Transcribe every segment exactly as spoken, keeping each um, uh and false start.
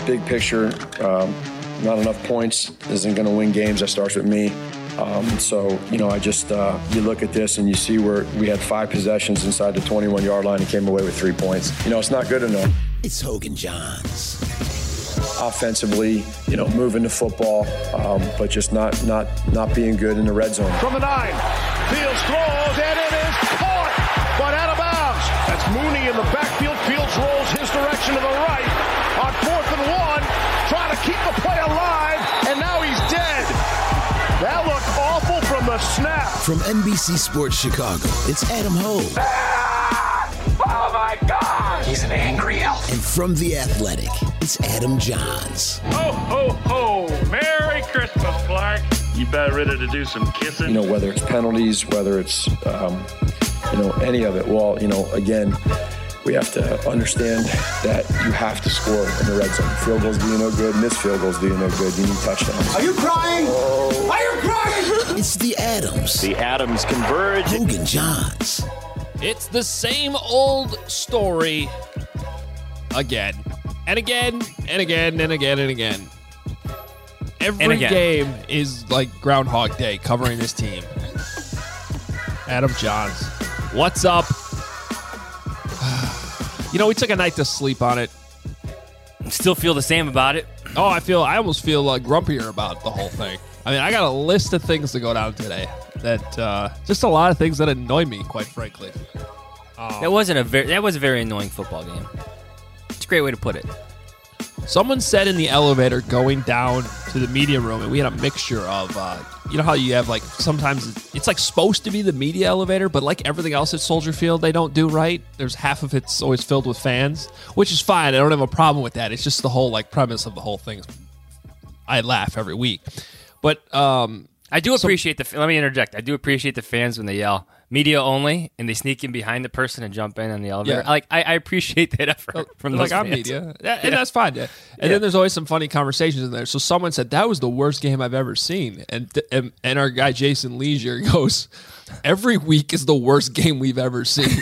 big picture, um, not enough points isn't going to win games. That starts with me. Um, so, you know, I just, uh, you look at this and you see where we had five possessions inside the twenty-one-yard line and came away with three points. You know, it's not good enough. It's Hogan Johns. Offensively, you know, moving the football, um, but just not, not, not being good in the red zone. From the nine, Fields throws, and it is caught, but out of bounds. That's Mooney in the backfield. Fields rolls his direction to the right on fourth and one, trying to keep the play alive, and now he's dead. That looked awful from the snap. From N B C Sports Chicago, it's Adam Hogue. Ah! Oh, my God! He's an angry elf. And from The Athletic, it's Adam Johns. Ho, ho, ho! Merry Christmas, Clark. You about ready to do some kissing? You know, whether it's penalties, whether it's, um, you know, any of it. Well, you know, again, we have to understand that you have to score in the red zone. Field goals do you no good, and this field goals do you no good. You need touchdowns. Are you crying? Oh. Are you crying? It's the Adams. The Adams converge. Hogan Johns. It's the same old story again and again and again and again and again. Every and again. game is like Groundhog Day covering this team. Adam Johns, what's up? You know, we took a night to sleep on it. Still feel the same about it. Oh, I feel I almost feel uh, grumpier about the whole thing. I mean, I got a list of things to go down today. That uh, just a lot of things that annoy me, quite frankly. Um, that wasn't a very that was a very annoying football game. It's a great way to put it. Someone said in the elevator going down to the media room, and we had a mixture of, uh, you know how you have like sometimes it's like supposed to be the media elevator, but like everything else at Soldier Field, they don't do right. There's half of it's always filled with fans, which is fine. I don't have a problem with that. It's just the whole like premise of the whole thing. I laugh every week, but um, I do appreciate some, the. Let me interject. I do appreciate the fans when they yell "media only" and they sneak in behind the person and jump in on the elevator. Yeah. Like I, I appreciate that effort from those like fans. I'm media, yeah, and yeah. that's fine. Yeah. And yeah. then there's always some funny conversations in there. So someone said that was the worst game I've ever seen, and and, and our guy Jason Leisure goes, "Every week is the worst game we've ever seen."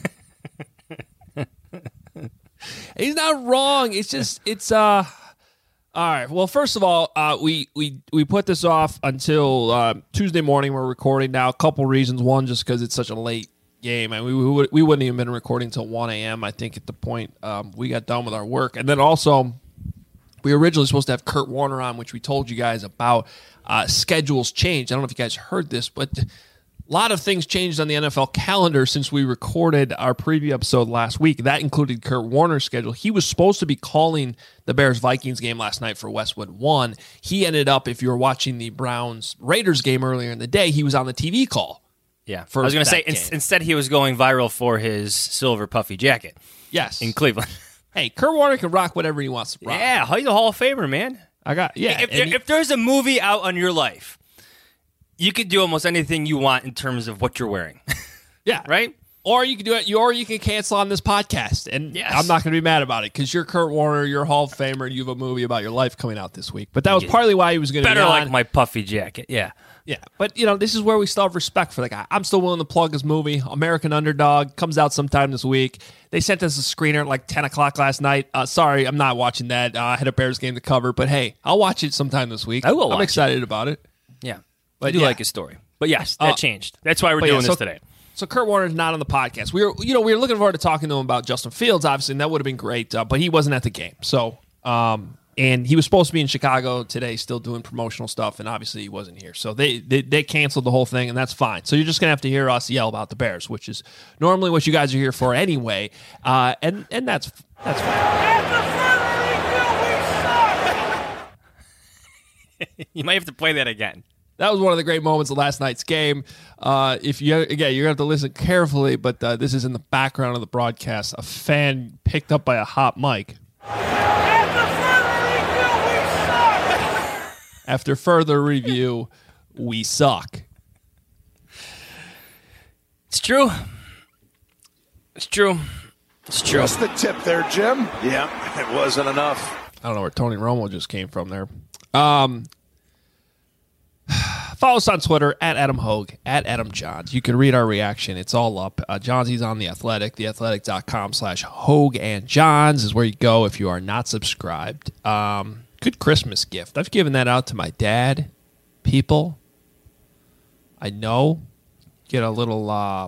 He's not wrong. It's just it's uh. All right. Well, first of all, uh, we we we put this off until uh, Tuesday morning. We're recording now. A couple reasons. One, just because it's such a late game, and we we, would, we wouldn't even been recording until one a.m. I think at the point um, we got done with our work, and then also we were originally supposed to have Kurt Warner on, which we told you guys about. Uh, schedules changed. I don't know if you guys heard this, but a lot of things changed on the N F L calendar since we recorded our preview episode last week. That included Kurt Warner's schedule. He was supposed to be calling the Bears-Vikings game last night for Westwood One. He ended up, if you were watching the Browns-Raiders game earlier in the day, he was on the T V call. Yeah, I was going to say, in, instead he was going viral for his silver puffy jacket. Yes. In Cleveland. Hey, Kurt Warner can rock whatever he wants to rock. Yeah, he's a Hall of Famer, man. I got, yeah. If, there, he, if there's a movie out on your life, you could do almost anything you want in terms of what you're wearing. Yeah. Right? Or you can do it, or you can cancel on this podcast, and yes. I'm not going to be mad about it because you're Kurt Warner, you're a Hall of Famer, and you have a movie about your life coming out this week. But that was yeah. partly why he was going to be Better on. like my puffy jacket, yeah. Yeah, but, you know, this is where we still have respect for the guy. I'm still willing to plug his movie, American Underdog, comes out sometime this week. They sent us a screener at like ten o'clock last night. Uh, sorry, I'm not watching that. Uh, I had a Bears game to cover, but hey, I'll watch it sometime this week. I will watch I'm excited it. about it. Yeah, but I do yeah. like his story. But yes, that uh, changed. That's why we're But doing yeah, this so, today. So Kurt Warner's not on the podcast. We were, you know, we were looking forward to talking to him about Justin Fields, obviously, and that would have been great. Uh, but he wasn't at the game. So, um, and he was supposed to be in Chicago today, still doing promotional stuff, and obviously he wasn't here. So they they, they canceled the whole thing, and that's fine. So you're just gonna have to hear us yell about the Bears, which is normally what you guys are here for anyway. Uh, and and that's that's fine. You might have to play that again. That was one of the great moments of last night's game. Uh, if you again, you're gonna have to listen carefully, but uh, this is in the background of the broadcast. A fan picked up by a hot mic. After further review, we suck. It's true. It's true. It's true. Just the tip there, Jim. Yeah, it wasn't enough. I don't know where Tony Romo just came from there. Um. Follow us on Twitter, at Adam Hogue, at Adam Johns. You can read our reaction. It's all up. Uh, Johnsy's on The Athletic. theathletic.com slash Hogue and Johns is where you go if you are not subscribed. Um, good Christmas gift. I've given that out to my dad. People, I know, get a little, uh,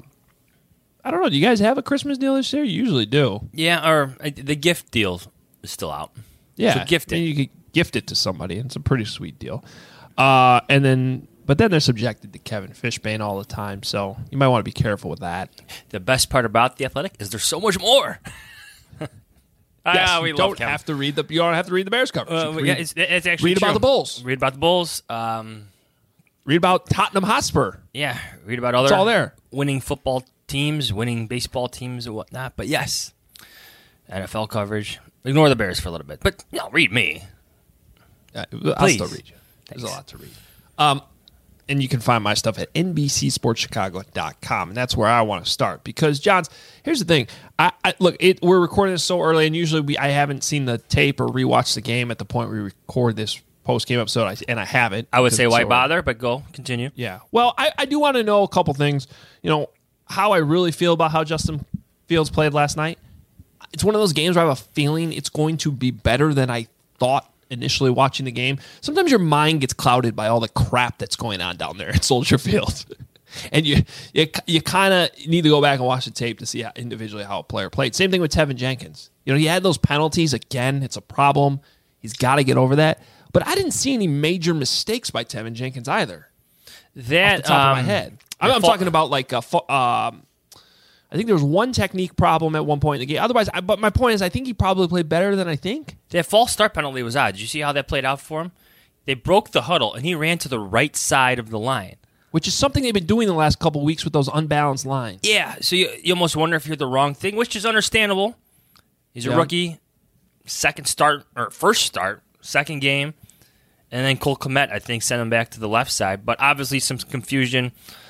I don't know, do you guys have a Christmas deal this year? You usually do. Yeah, or uh, the gift deal is still out. Yeah. So gift it. And you could gift it to somebody. It's a pretty sweet deal. Uh, and then, but then they're subjected to Kevin Fishbane all the time, so you might want to be careful with that. The best part about The Athletic is there's so much more. Yes, ah, we you love don't Kevin. have to read the. You don't have to read the Bears coverage. Uh, read, yeah, it's, it's actually read about true. the Bulls. Read about the Bulls. Um, read about Tottenham Hotspur. yeah, read about other It's all there. winning football teams, winning baseball teams, and whatnot. But yes, N F L coverage. Ignore the Bears for a little bit, but no, read me. Uh, I'll Please. still read you. There's Thanks. a lot to read. Um, and you can find my stuff at N B C sports chicago dot com, and that's where I want to start. Because, Johns, here's the thing. I, I look, it, we're recording this so early, and usually we I haven't seen the tape or rewatched the game at the point we record this post-game episode, I- and I haven't. I would because say it's why so early. bother, but go continue. Yeah. Well, I, I do want to know a couple things. You know, how I really feel about how Justin Fields played last night. It's one of those games where I have a feeling it's going to be better than I thought initially watching the game. Sometimes your mind gets clouded by all the crap that's going on down there at Soldier Field. And you you, you kind of need to go back and watch the tape to see how, individually how a player played. Same thing with Tevin Jenkins. You know, he had those penalties. Again, it's a problem. He's got to get over that. But I didn't see any major mistakes by Tevin Jenkins either. That Off the top um, of my head. I'm, I'm fault- talking about like a, fo- um, I think there was one technique problem at one point in the game. Otherwise, I, but my point is, I think he probably played better than I think. That false start penalty was odd. Did you see how that played out for him? They broke the huddle, and he ran to the right side of the line. Which is something they've been doing the last couple of weeks with those unbalanced lines. Yeah, so you, you almost wonder if you're the wrong thing, which is understandable. He's a Yeah. rookie, second start, or first start, second game. And then Cole Kmet, I think, sent him back to the left side. But obviously some confusion.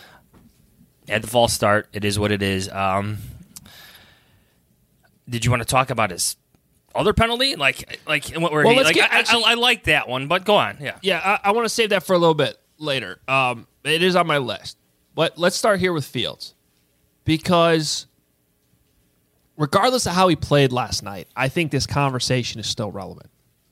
Had the false start. It is what it is. Um, did you want to talk about his other penalty? Like, like what where Well, he, let's like get- I, actually- I, I like that one, but go on. Yeah. Yeah, I, I want to save that for a little bit later. Um, it is on my list. But let's start here with Fields. Because regardless of how he played last night, I think this conversation is still relevant.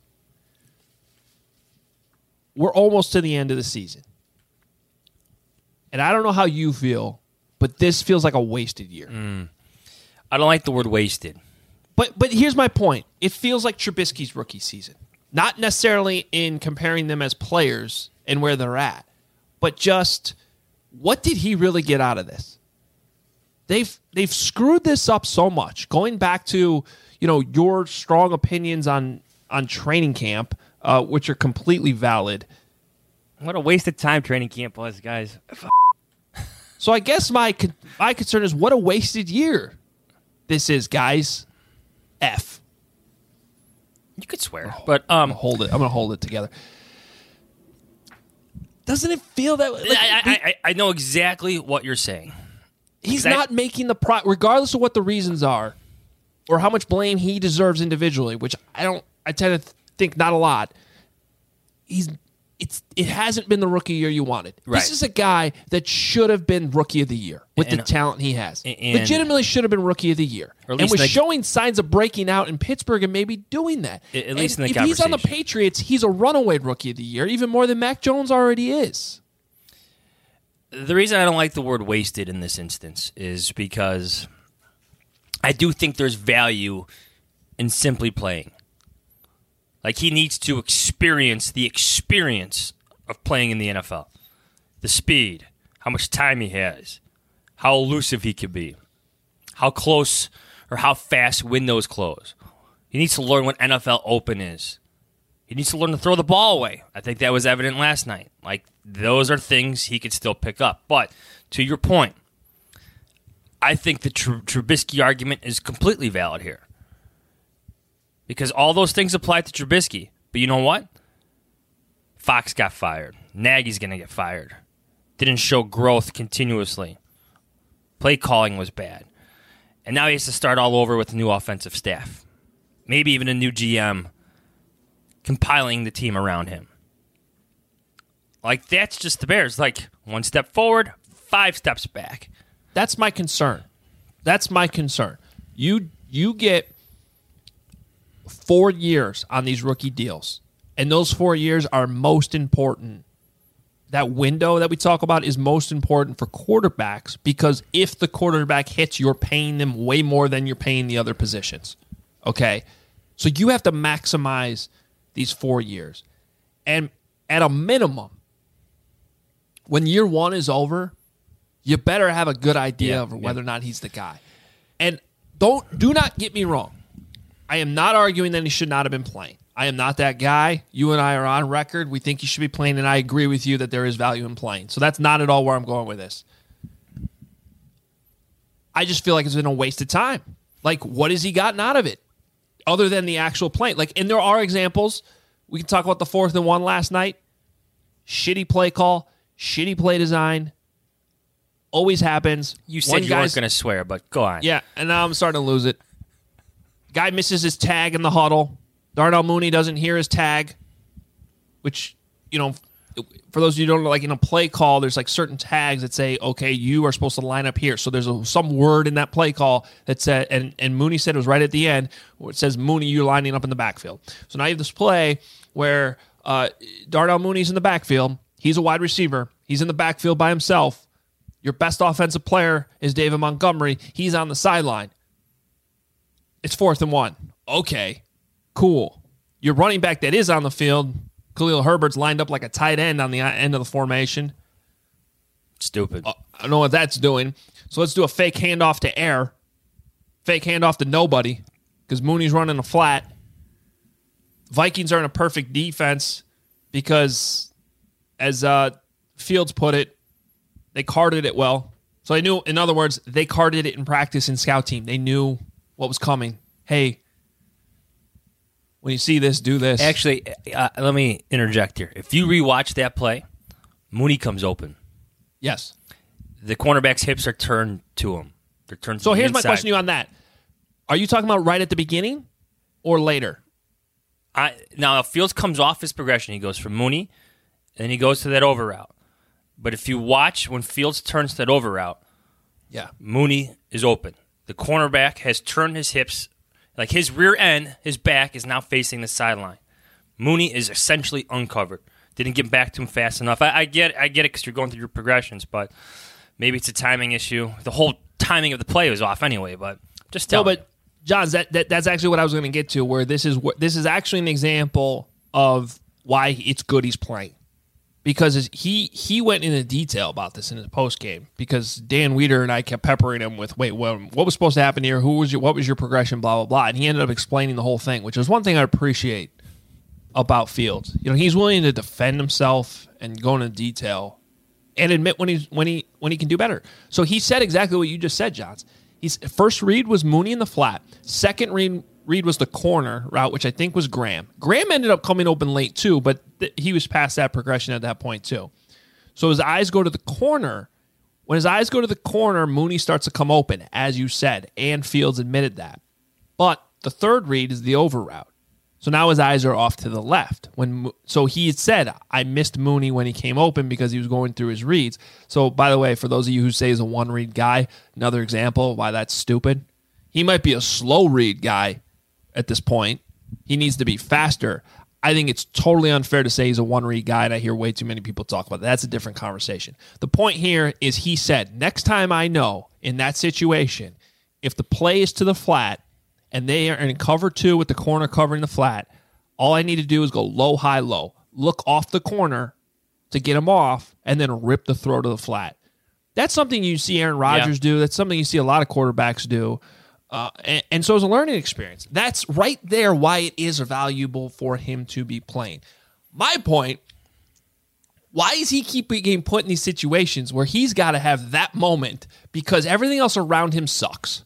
We're almost to the end of the season. And I don't know how you feel, but this feels like a wasted year. I don't like the word wasted. But but here's my point. It feels like Trubisky's rookie season. Not necessarily in comparing them as players and where they're at, but just what did he really get out of this? They've they've screwed this up so much. Going back to, you know, your strong opinions on on training camp, uh, which are completely valid. What a wasted time training camp was, guys. So I guess my con- my concern is what a wasted year this is, guys. F. You could swear, but um, I'm gonna hold it. I'm gonna hold it together. Doesn't it feel that way? Like, I, I, I, I know exactly what you're saying. he's I- not making the pro, regardless of what the reasons are, or how much blame he deserves individually. Which I don't. I tend to think not a lot. He's. It's. It hasn't been the rookie year you wanted. Right. This is a guy that should have been rookie of the year with And- the talent he has. and- Legitimately should have been rookie of the year, Or at and least was like- showing signs of breaking out in Pittsburgh and maybe doing that. At- at least And in the if he's on the conversation. Patriots, he's a runaway rookie of the year, even more than Mac Jones already is. The reason I don't like the word wasted in this instance is because I do think there's value in simply playing. Like, he needs to experience the experience of playing in the N F L. The speed, how much time he has, how elusive he can be, how close or how fast windows close. He needs to learn what N F L open is. He needs to learn to throw the ball away. I think that was evident last night. Like, those are things he could still pick up. But to your point, I think the Tr- Trubisky argument is completely valid here. Because all those things apply to Trubisky. But you know what? Fox got fired. Nagy's going to get fired. Didn't show growth continuously. Play calling was bad. And now he has to start all over with a new offensive staff. Maybe even a new G M compiling the team around him. Like, that's just the Bears. Like, one step forward, five steps back. That's my concern. That's my concern. You you get four years on these rookie deals, and those four years are most important. That window that we talk about is most important for quarterbacks because if the quarterback hits, you're paying them way more than you're paying the other positions. Okay? So you have to maximize these four years. And at a minimum, when year one is over, you better have a good idea yeah, of whether yeah. or not he's the guy. And don't do not get me wrong. I am not arguing that he should not have been playing. I am not that guy. You and I are on record. We think he should be playing, and I agree with you that there is value in playing. So that's not at all where I'm going with this. I just feel like it's been a waste of time. Like, what has he gotten out of it other than the actual play? Like, and there are examples. We can talk about the fourth and one last night. Shitty play call, shitty play design. Always happens. You said One you guy's- weren't going to swear, but go on. Yeah, and now I'm starting to lose it. Guy misses his tag in the huddle. Darnell Mooney doesn't hear his tag, which, you know, for those of you who don't know, like in a play call, there's like certain tags that say, okay, you are supposed to line up here. So there's a, some word in that play call that said, and, and Mooney said it was right at the end, where it says, Mooney, you're lining up in the backfield. So now you have this play where uh, Darnell Mooney's in the backfield. He's a wide receiver. He's in the backfield by himself. Your best offensive player is David Montgomery. He's on the sideline. It's fourth and one. Okay, cool. Your running back that is on the field, Khalil Herbert's lined up like a tight end on the end of the formation. Stupid. Uh, I don't know what that's doing. So let's do a fake handoff to air. Fake handoff to nobody because Mooney's running a flat. Vikings are in a perfect defense because, as uh, Fields put it, they carded it well. So they knew, in other words, they carded it in practice in scout team. They knew what was coming. Hey, when you see this, do this. Actually, uh, let me interject here. If you rewatch that play, Mooney comes open. Yes. The cornerback's hips are turned to him. They're turned to So the here's my inside. question to you on that. Are you talking about right at the beginning or later? I, now, if Fields comes off his progression, he goes from Mooney, and he goes to that over route. But if you watch when Fields turns to that over route, Yeah. Mooney is open. The cornerback has turned his hips, like his rear end, his back is now facing the sideline. Mooney is essentially uncovered. Didn't get back to him fast enough. I, I get, I get it because you're going through your progressions, but maybe it's a timing issue. The whole timing of the play was off anyway. But just tell No, me. but John, that, that that's actually what I was going to get to. Where this is what this is actually an example of why it's good he's playing. Because he he went into detail about this in his post game. Because Dan Weeder and I kept peppering him with, wait, what, what was supposed to happen here? Who was your what was your progression? Blah blah blah. And he ended up explaining the whole thing, which is one thing I appreciate about Fields. You know, he's willing to defend himself and go into detail and admit when he's when he when he can do better. So he said exactly what you just said, Johns. He's first read was Mooney in the flat. Second read read was the corner route, which I think was Graham. Graham ended up coming open late too, but th- he was past that progression at that point too. So his eyes go to the corner. When his eyes go to the corner, Mooney starts to come open, as you said, and Fields admitted that. But the third read is the over route. So now his eyes are off to the left. When so he had said, I missed Mooney when he came open because he was going through his reads. So by the way, for those of you who say he's a one-read guy, another example of why that's stupid. He might be a slow-read guy at this point. He needs to be faster. I think it's totally unfair to say he's a one-read guy, and I hear way too many people talk about that. That's a different conversation. The point here is he said, next time I know in that situation, if the play is to the flat, and they are in cover two with the corner covering the flat, all I need to do is go low, high, low. Look off the corner to get him off, and then rip the throw to the flat. That's something you see Aaron Rodgers yeah. do. That's something you see a lot of quarterbacks do. Uh, and, and so it's a learning experience. That's right there why it is valuable for him to be playing. My point, why is he keep getting put in these situations where he's got to have that moment because everything else around him sucks?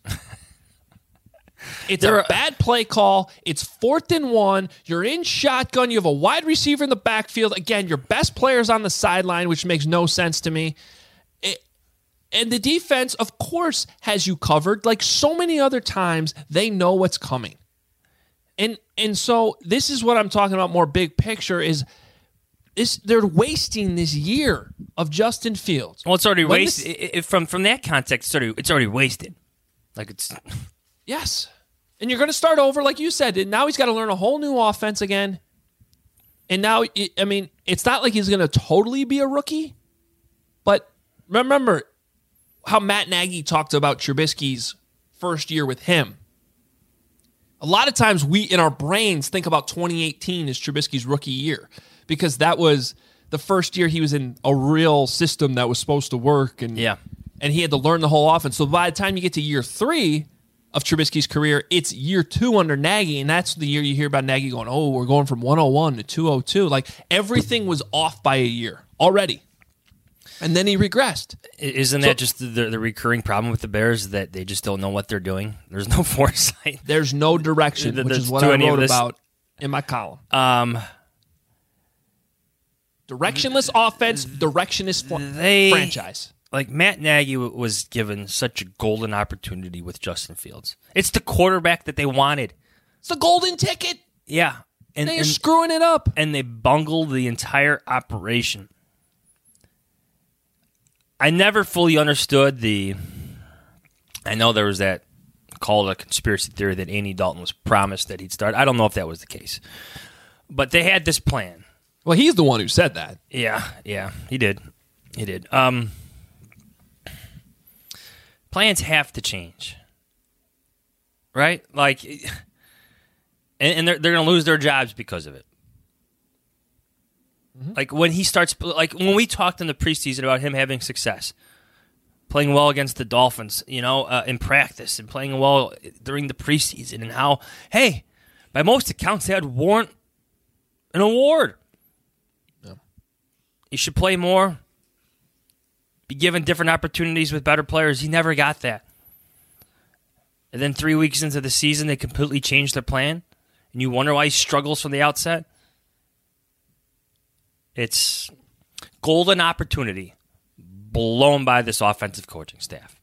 It's There a are- bad play call. It's fourth and one. You're in shotgun. You have a wide receiver in the backfield. Again, your best player's on the sideline, which makes no sense to me. It, and the defense, of course, has you covered. Like so many other times, they know what's coming. And and so this is what I'm talking about more big picture is this, they're wasting this year of Justin Fields. Well, it's already When wasted. this- It- it- from from that context, it's already it's already wasted. Like it's Yes. And you're going to start over, like you said. And now he's got to learn a whole new offense again. And now, it- I mean, it's not like he's going to totally be a rookie. But remember how Matt Nagy talked about Trubisky's first year with him. A lot of times we, in our brains, think about twenty eighteen as Trubisky's rookie year because that was the first year he was in a real system that was supposed to work. And, Yeah. and he had to learn the whole offense. So by the time you get to year three of Trubisky's career, it's year two under Nagy, and that's the year you hear about Nagy going, oh, we're going from one oh one to two oh two. Like, everything was off by a year already. And then he regressed. Isn't So- that just the, the recurring problem with the Bears that they just don't know what they're doing? There's no foresight. There's no direction, Th- which there's is what to I any of wrote this- about in my column. Um, Directionless offense, directionless fo- they franchise. Like Matt Nagy w- was given such a golden opportunity with Justin Fields. It's the quarterback that they wanted. It's the golden ticket. Yeah, and They're and, screwing it up. and they bungled the entire operation. I never fully understood the. I know there was that called a conspiracy theory that Andy Dalton was promised that he'd start. I don't know if that was the case, but they had this plan. Well, he's the one who said that. Yeah, yeah, he did. He did. Um, plans have to change, right? Like, and, and they're they're going to lose their jobs because of it. Mm-hmm. Like when he starts, like when we talked in the preseason about him having success, playing well against the Dolphins, you know, uh, in practice and playing well during the preseason, and how, hey, by most accounts, they had warrant an award. He should play more, be given different opportunities with better players. He never got that. And then three weeks into the season, they completely changed their plan, and you wonder why he struggles from the outset. It's golden opportunity blown by this offensive coaching staff.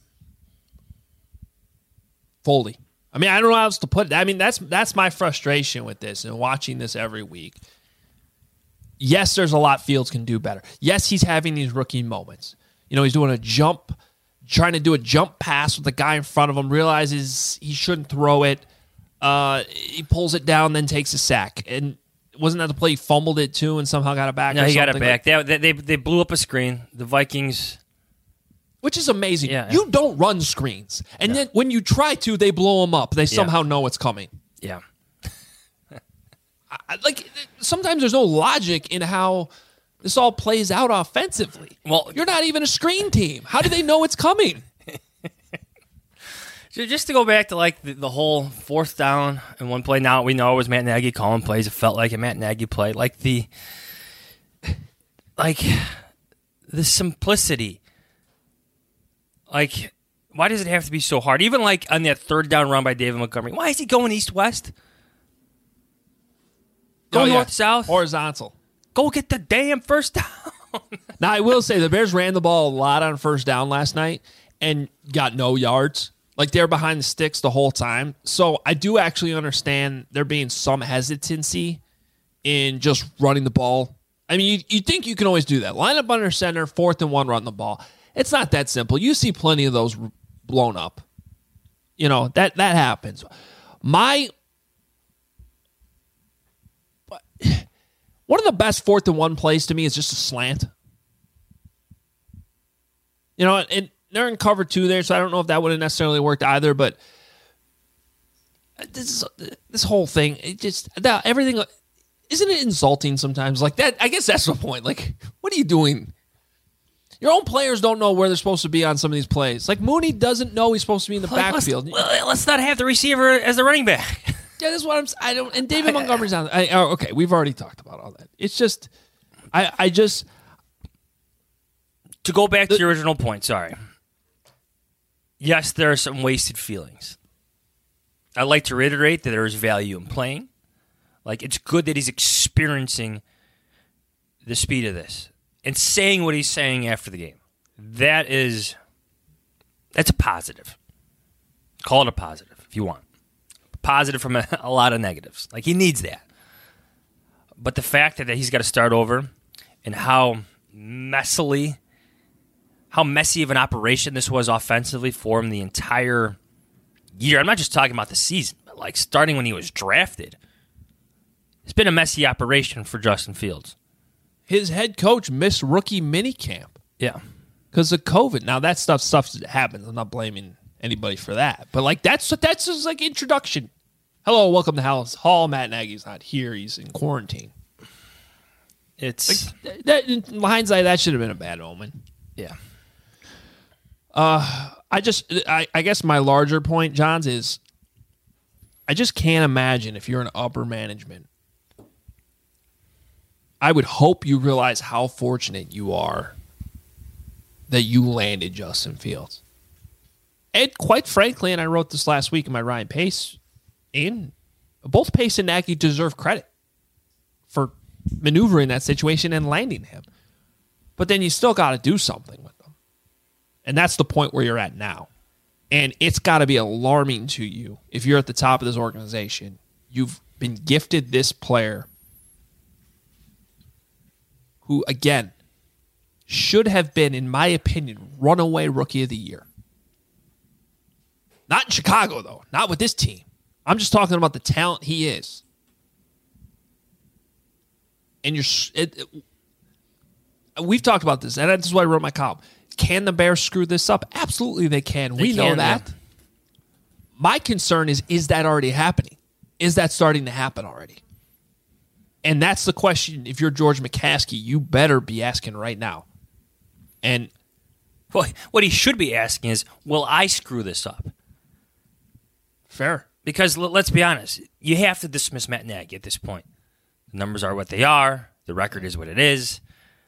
Foley. I mean, I don't know how else to put it. I mean, that's that's my frustration with this and watching this every week. Yes, there's a lot Fields can do better. Yes, he's having these rookie moments. You know, he's doing a jump, trying to do a jump pass with the guy in front of him, realizes he shouldn't throw it. Uh, he pulls it down, then takes a sack. And wasn't that the play he fumbled it too and somehow got it back? No, or he got it something? back. They, they, they blew up a screen. The Vikings... Which is amazing. Yeah. You don't run screens. And then when you try to, they blow them up. They somehow know it's coming. Yeah. I, like, sometimes there's no logic in how this all plays out offensively. Well, you're not even a screen team. How do they know it's coming? So just to go back to like the, the whole fourth down and one play. Now we know it was Matt Nagy calling plays. It felt like a Matt Nagy play. Like the, like the simplicity. Like, why does it have to be so hard? Even like on that third down run by David Montgomery. Why is he going east west? Go Oh, yeah. north south. Horizontal. Go get the damn first down. Now, I will say the Bears ran the ball a lot on first down last night and got no yards. Like, they're behind the sticks the whole time. So I do actually understand there being some hesitancy in just running the ball. I mean, you, you think you can always do that. Line up under center, fourth and one, run the ball. It's not that simple. You see plenty of those blown up. You know, that, that happens. My... One of the best fourth and one plays to me is just a slant. You know, and they're in cover two there, so I don't know if that would have necessarily worked either. But this is, this whole thing, it just that everything isn't it insulting sometimes? Like that, I guess that's the point. Like, what are you doing? Your own players don't know where they're supposed to be on some of these plays. Like Mooney doesn't know he's supposed to be in the Like, backfield. Let's, well, let's not have the receiver as the running back. Yeah, that's what I'm. I don't. And David Montgomery's on. I, oh, okay, we've already talked about all that. It's just, I, I just to go back to your original point. Sorry. Yes, there are some wasted feelings. I'd like to reiterate that there is value in playing. Like it's good that he's experiencing the speed of this and saying what he's saying after the game. That is, that's a positive. Call it a positive if you want. Positive from a, a lot of negatives. Like he needs that. but the fact that he's got to start over and how messily, how messy of an operation this was offensively for him the entire year. I'm not just talking about the season, but like starting when he was drafted. It's been a messy operation for Justin Fields. His head coach missed rookie minicamp. Yeah. Because of COVID. Now, that stuff stuff happens. I'm not blaming anybody for that. But, like, that's that's just, like, introduction. Hello, welcome to Hallis Hall. Matt Nagy's not here. He's in quarantine. It's... Like, that, in hindsight, that should have been a bad omen. Yeah. Uh, I just... I, I guess my larger point, Johns, is I just can't imagine if you're in upper management. I would hope you realize how fortunate you are that you landed Justin Fields. And quite frankly, and I wrote this last week in my Ryan Pace, and both Pace and Nagy deserve credit for maneuvering that situation and landing him. But then you still got to do something with them. And that's the point where you're at now. And it's got to be alarming to you if you're at the top of this organization. You've been gifted this player who, again, should have been, in my opinion, runaway rookie of the year. Not in Chicago, though. Not with this team. I'm just talking about the talent he is. And you're... It, it, we've talked about this, and this is why I wrote my column. Can the Bears screw this up? Absolutely they can. They we can, know that. Yeah. My concern is, is that already happening? Is that starting to happen already? And that's the question. If you're George McCaskey, you better be asking right now. And well, what he should be asking is, will I screw this up? Fair. Because l- let's be honest, you have to dismiss Matt Nagy at this point. The numbers are what they are. The record is what it is.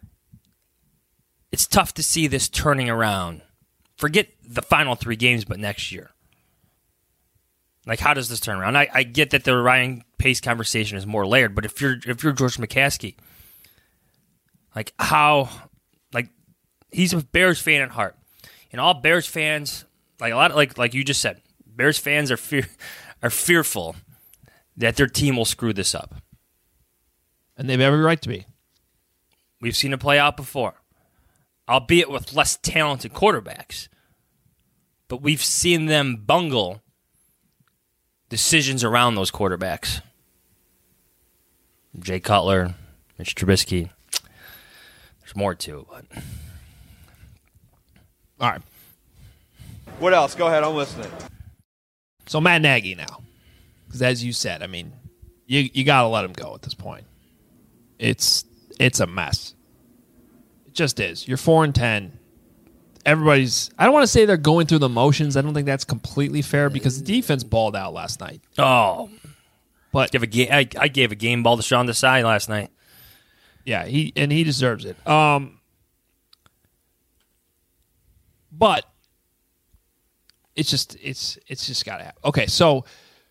It's tough to see this turning around. Forget the final three games, but next year. Like, how does this turn around? I, I get that the Ryan Pace conversation is more layered, but if you're if you're George McCaskey, like how, like he's a Bears fan at heart, and all Bears fans, like a lot, of, like like you just said, Bears fans are fear are fearful that their team will screw this up, and they have every right to be. We've seen it play out before, albeit with less talented quarterbacks, but we've seen them bungle decisions around those quarterbacks. Jay Cutler, Mitch Trubisky. There's more to it, but all right. What else? Go ahead, I'm listening. So Matt Nagy now, because as you said, I mean, you you got to let him go at this point. It's it's a mess. It just is. You're four and ten. Everybody's, I don't want to say they're going through the motions. I don't think that's completely fair because the defense balled out last night. Oh, but give a ga- I, I gave a game ball to Sean Desai last night. Yeah, he and he deserves it. Um, but it's just it's it's just got to happen. Okay, so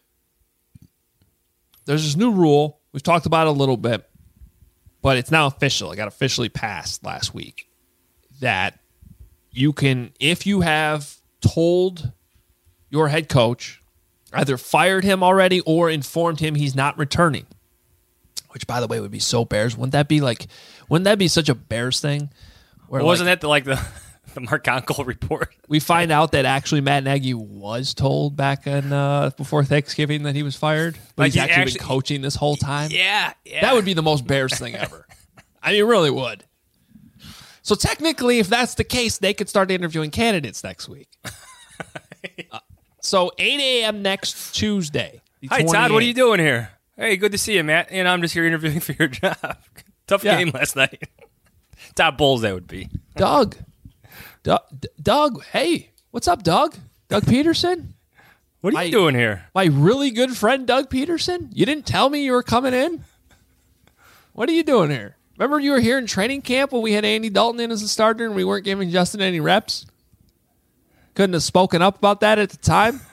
there's this new rule. We've talked about it a little bit, but it's now official. It got officially passed last week that you can, if you have told your head coach, either fired him already or informed him he's not returning, which, by the way, would be so Bears. Wouldn't that be like, wouldn't that be such a Bears thing? Where, well, wasn't like, that the, like the, the Mark Onkel report? We find out that actually Matt Nagy was told back in, uh, before Thanksgiving that he was fired, but like he's, he's actually, actually been coaching this whole time. Yeah, yeah. That would be the most Bears thing ever. I mean, it really would. So technically, if that's the case, they could start interviewing candidates next week. uh, so eight a.m. next Tuesday. Hi, Todd. What are you doing here? Hey, good to see you, Matt. And I'm just here interviewing for your job. Tough yeah. game last night. Top Bulls, that would be. Doug. Doug. Doug. Hey, what's up, Doug? Doug Peterson? What are my, you doing here? My really good friend, Doug Peterson? You didn't tell me you were coming in? What are you doing here? Remember you were here in training camp when we had Andy Dalton in as a starter and we weren't giving Justin any reps? Couldn't have spoken up about that at the time?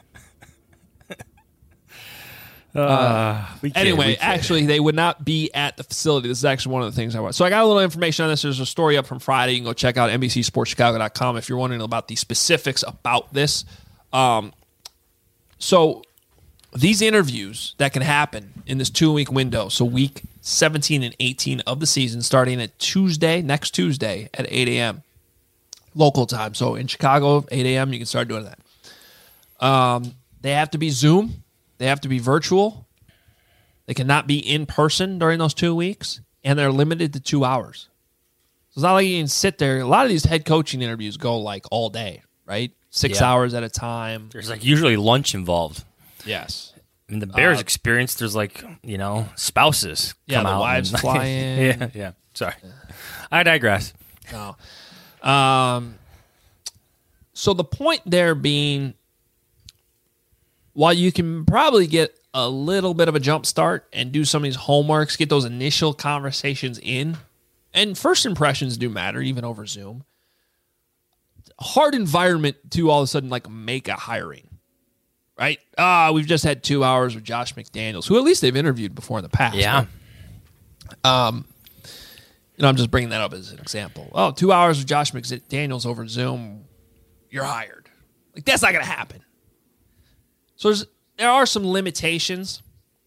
uh, uh, we anyway, we actually, they would not be at the facility. This is actually one of the things I want. So I got a little information on this. There's a story up from Friday. You can go check out N B C Sports Chicago dot com if you're wondering about the specifics about this. Um, so these interviews that can happen in this two-week window, so week seventeen and eighteen of the season, starting at Tuesday, next Tuesday at eight a.m. local time. So in Chicago, eight a.m., you can start doing that. Um, they have to be Zoom. They have to be virtual. They cannot be in person during those two weeks, and they're limited to two hours. So it's not like you can sit there. A lot of these head coaching interviews go like all day, right? Six Yeah. hours at a time. There's like usually lunch involved. Yes. In the Bears' Uh, experience, there's like, you know, spouses Yeah, come the out. wives and- fly in. yeah, yeah. Sorry. I digress. No. Um, so the point there being, while you can probably get a little bit of a jump start and do some of these homeworks, get those initial conversations in, and first impressions do matter, even over Zoom. Hard environment to all of a sudden like make a hiring, right? Ah, we've just had two hours with Josh McDaniels, who at least they've interviewed before in the past. Yeah. Right? Um, you know, I'm just bringing that up as an example. Oh, two hours with Josh McDaniels over Zoom, you're hired. Like, that's not going to happen. So there's, there are some limitations.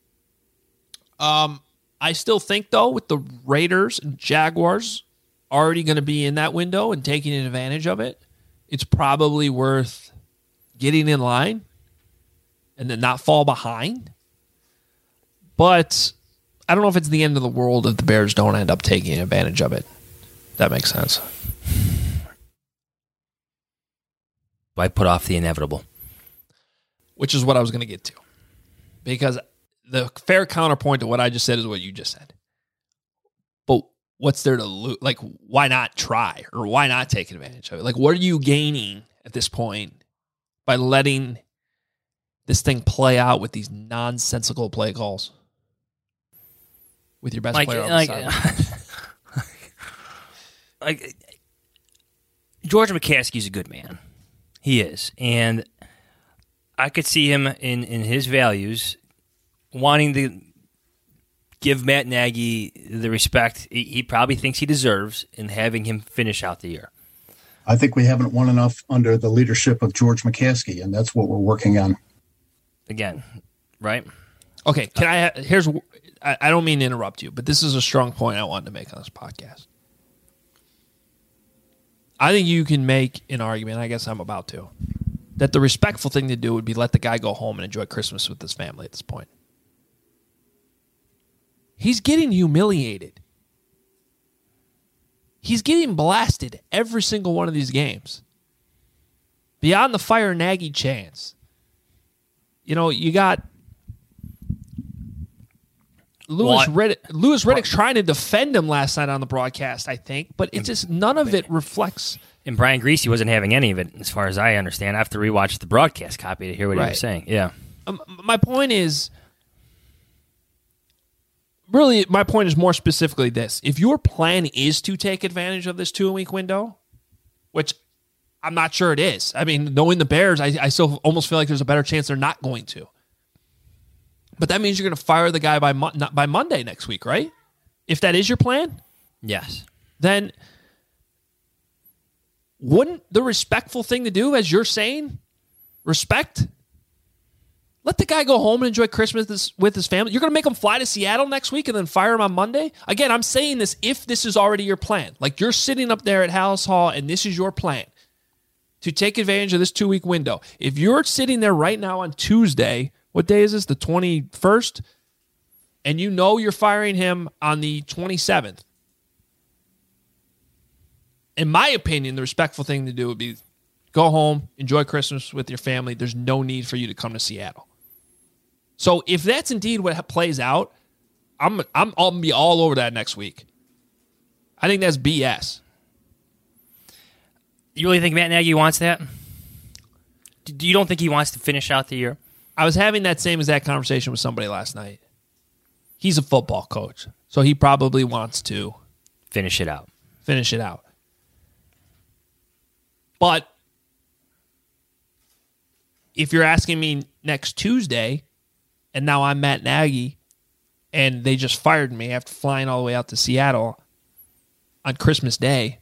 Um, I still think, though, with the Raiders and Jaguars already going to be in that window and taking advantage of it, it's probably worth getting in line and then not fall behind. But I don't know if it's the end of the world if the Bears don't end up taking advantage of it. That makes sense. Why put off the inevitable? Which is what I was going to get to. Because the fair counterpoint to what I just said is what you just said. But what's there to lose? Like, why not try? Or why not take advantage of it? Like, what are you gaining at this point by letting this thing play out with these nonsensical play calls? With your best Like, player on like, the side. like, George McCaskey's a good man. He is. And I could see him in, in his values wanting to give Matt Nagy the respect he, he probably thinks he deserves in having him finish out the year. I think we haven't won enough under the leadership of George McCaskey, and that's what we're working on. Again, right? Okay, can I? Here's. I, I don't mean to interrupt you, but this is a strong point I wanted to make on this podcast. I think you can make an argument, I guess I'm about to, that the respectful thing to do would be let the guy go home and enjoy Christmas with his family at this point. He's getting humiliated. He's getting blasted every single one of these games. Beyond the fire Nagy chance. You know, you got Lewis Riddick, Lewis Riddick trying to defend him last night on the broadcast, I think, but it just none of it reflects. And Brian Greasy wasn't having any of it, as far as I understand. I have to rewatch the broadcast copy to hear what Right. he was saying. Yeah. Um, my point is, really, my point is more specifically this. If your plan is to take advantage of this two-week window, which I'm not sure it is. I mean, knowing the Bears, I, I still almost feel like there's a better chance they're not going to. But that means you're going to fire the guy by mo- not by Monday next week, right? If that is your plan, Yes. then wouldn't the respectful thing to do, as you're saying, respect? Let the guy go home and enjoy Christmas with his, with his family. You're going to make him fly to Seattle next week and then fire him on Monday? Again, I'm saying this if this is already your plan. Like, you're sitting up there at Hallis Hall and this is your plan to take advantage of this two-week window. If you're sitting there right now on Tuesday, what day is this, the twenty-first? And you know you're firing him on the twenty-seventh. In my opinion, the respectful thing to do would be go home, enjoy Christmas with your family. There's no need for you to come to Seattle. So if that's indeed what plays out, I'm I'm I'll be all over that next week. I think that's B S. You really think Matt Nagy wants that? Do you don't think he wants to finish out the year? I was having that same exact conversation with somebody last night. He's a football coach, so he probably wants to finish it out. Finish it out. But if you're asking me next Tuesday, and now I'm Matt Nagy, and they just fired me after flying all the way out to Seattle on Christmas Day,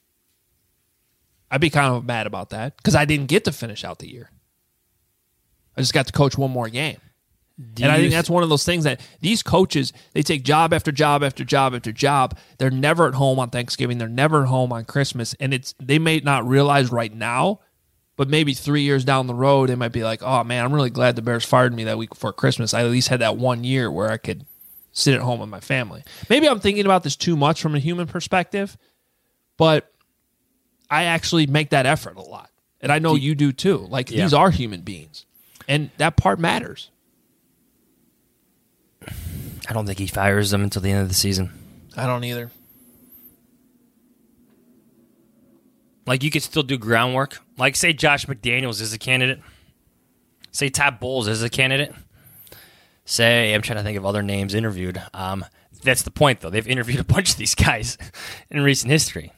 I'd be kind of mad about that because I didn't get to finish out the year. I just got to coach one more game. Do and I you think that's one of those things that these coaches, they take job after job after job after job. They're never at home on Thanksgiving. They're never at home on Christmas. And it's they may not realize right now, but maybe three years down the road, they might be like, oh, man, I'm really glad the Bears fired me that week before Christmas. I at least had that one year where I could sit at home with my family. Maybe I'm thinking about this too much from a human perspective, but I actually make that effort a lot. And I know you do too. Like, yeah. These are human beings. And that part matters. I don't think he fires them until the end of the season. I don't either. Like, you could still do groundwork. Like, say Josh McDaniels is a candidate. Say Todd Bowles is a candidate. Say, I'm trying to think of other names interviewed. Um, that's the point, though. They've interviewed a bunch of these guys in recent history.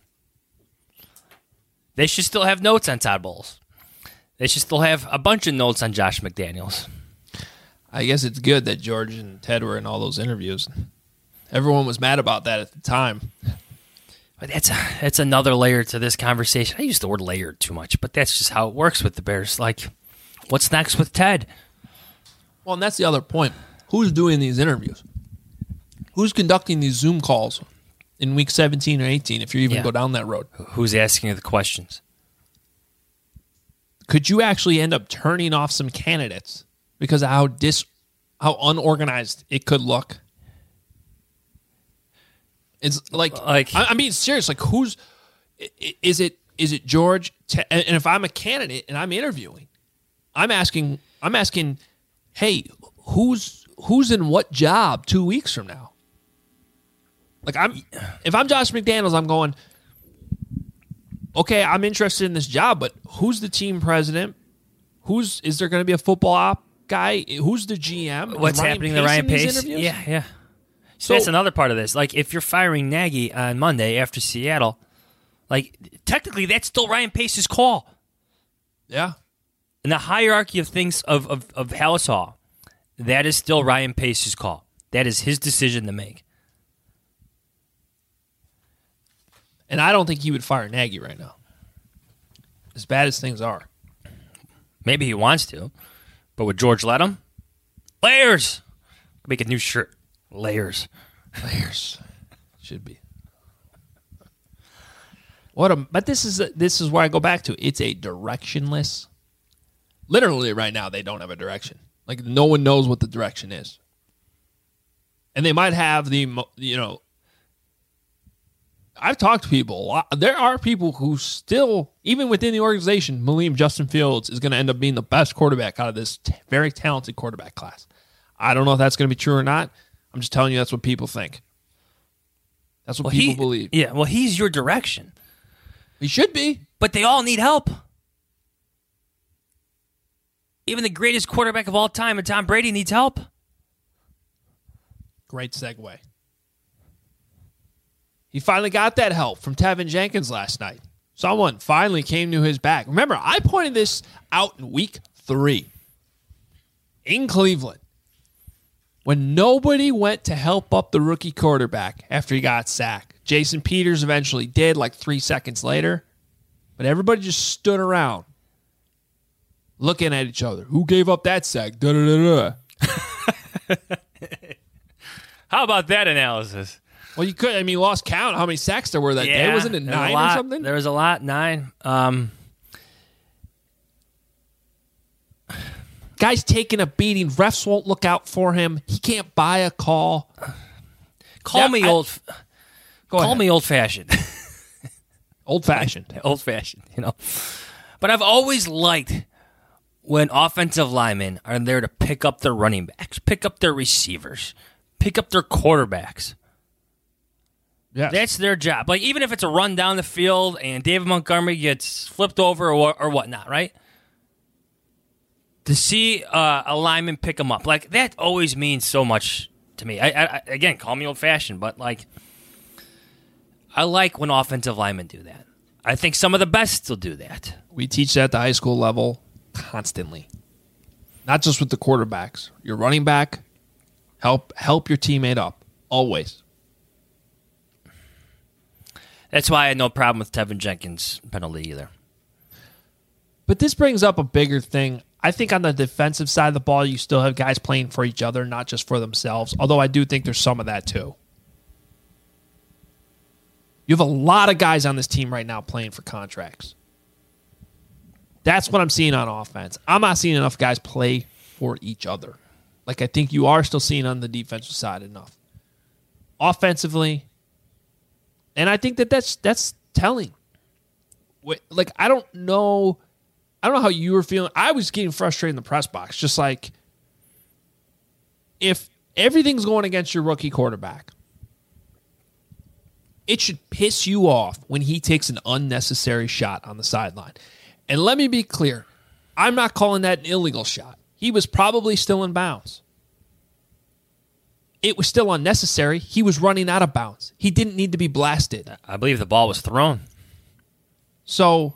They should still have notes on Todd Bowles. They should still have a bunch of notes on Josh McDaniels. I guess it's good that George and Ted were in all those interviews. Everyone was mad about that at the time. But that's that's another layer to this conversation. I use the word layered too much, but that's just how it works with the Bears. Like, what's next with Ted? Well, and that's the other point. Who's doing these interviews? Who's conducting these Zoom calls in week seventeen or eighteen, if you even Yeah. go down that road? Who's asking you the questions? Could you actually end up turning off some candidates because of how dis, how unorganized it could look? It's like, like I, I mean, serious. Like, who's is it? Is it George? Te- and if I'm a candidate and I'm interviewing, I'm asking, I'm asking, hey, who's who's in what job two weeks from now? Like, I'm if I'm Josh McDaniels, I'm going, okay, I'm interested in this job, but who's the team president? Who's is there going to be a football op guy? Who's the G M? What's happening to Ryan Pace? Yeah, yeah. So that's another part of this. Like, if you're firing Nagy on Monday after Seattle, like, technically that's still Ryan Pace's call. Yeah. In the hierarchy of things of, of, of Hallis Hall, that is still Ryan Pace's call. That is his decision to make. And I don't think he would fire Nagy right now. As bad as things are. Maybe he wants to, but would George let him? Layers! Make a new shirt. Layers. Layers. Should be. What a but this is a, this is where I go back to. It's a directionless. Literally right now they don't have a direction. Like, no one knows what the direction is. And they might have the, you know, I've talked to people. A lot. There are people who still, even within the organization, believe Justin Fields is going to end up being the best quarterback out of this t- very talented quarterback class. I don't know if that's going to be true or not. I'm just telling you that's what people think. That's what well, people he, believe. Yeah, well, he's your direction. He should be. But they all need help. Even the greatest quarterback of all time, and Tom Brady, needs help. Great segue. He finally got that help from Tevin Jenkins last night. Someone finally came to his back. Remember, I pointed this out in week three in Cleveland when nobody went to help up the rookie quarterback after he got sacked. Jason Peters eventually did, like three seconds later. But everybody just stood around looking at each other. Who gave up that sack? Da-da-da-da. How about that analysis? Well, you could. I mean, lost count how many sacks there were that yeah, day. Wasn't it nine or something? There was a lot, nine. Um, Guy's taking a beating. Refs won't look out for him. He can't buy a call. Call Yeah, me I- old. Go call ahead. me old fashioned. Old fashioned. old fashioned. You know, but I've always liked when offensive linemen are there to pick up their running backs, pick up their receivers, pick up their quarterbacks. Yeah, That's their job. Like, even if it's a run down the field and David Montgomery gets flipped over or, or whatnot, right? To see uh, a lineman pick him up, like, that always means so much to me. I, I, again, call me old-fashioned, but, like, I like when offensive linemen do that. I think some of the best still do that. we teach that at the high school level constantly. Not just with the quarterbacks. Your running back, help help your teammate up. Always. That's why I had no problem with Tevin Jenkins' penalty either. But this brings up a bigger thing. I think on the defensive side of the ball, you still have guys playing for each other, not just for themselves, although I do think there's some of that too. You have a lot of guys on this team right now playing for contracts. That's what I'm seeing on offense. I'm not seeing enough guys play for each other. Like I think you are still seeing on the defensive side enough. Offensively, and I think that that's that's telling. Like I don't know, I don't know how you were feeling. I was getting frustrated in the press box, just like if everything's going against your rookie quarterback, it should piss you off when he takes an unnecessary shot on the sideline. And let me be clear, I'm not calling that an illegal shot. He was probably still in bounds. It was still unnecessary. He was running out of bounds. He didn't need to be blasted. I believe the ball was thrown. So,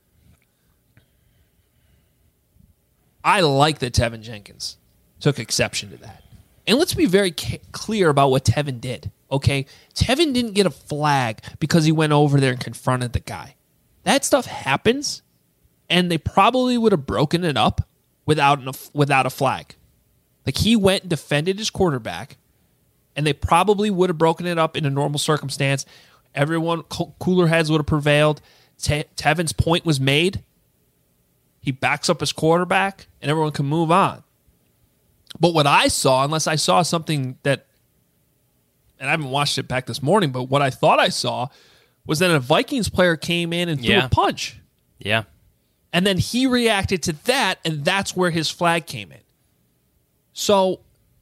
I like that Tevin Jenkins took exception to that. And let's be very ca- clear about what Tevin did, okay? Tevin didn't get a flag because he went over there and confronted the guy. That stuff happens, and they probably would have broken it up without an, without a flag. Like, he went and defended his quarterback, and they probably would have broken it up in a normal circumstance. Everyone, co- cooler heads would have prevailed. Te- Tevin's point was made. He backs up his quarterback, and everyone can move on. But what I saw, unless I saw something that, and I haven't watched it back this morning, but what I thought I saw was that a Vikings player came in and threw Yeah. a punch. Yeah. And then he reacted to that, and that's where his flag came in. So,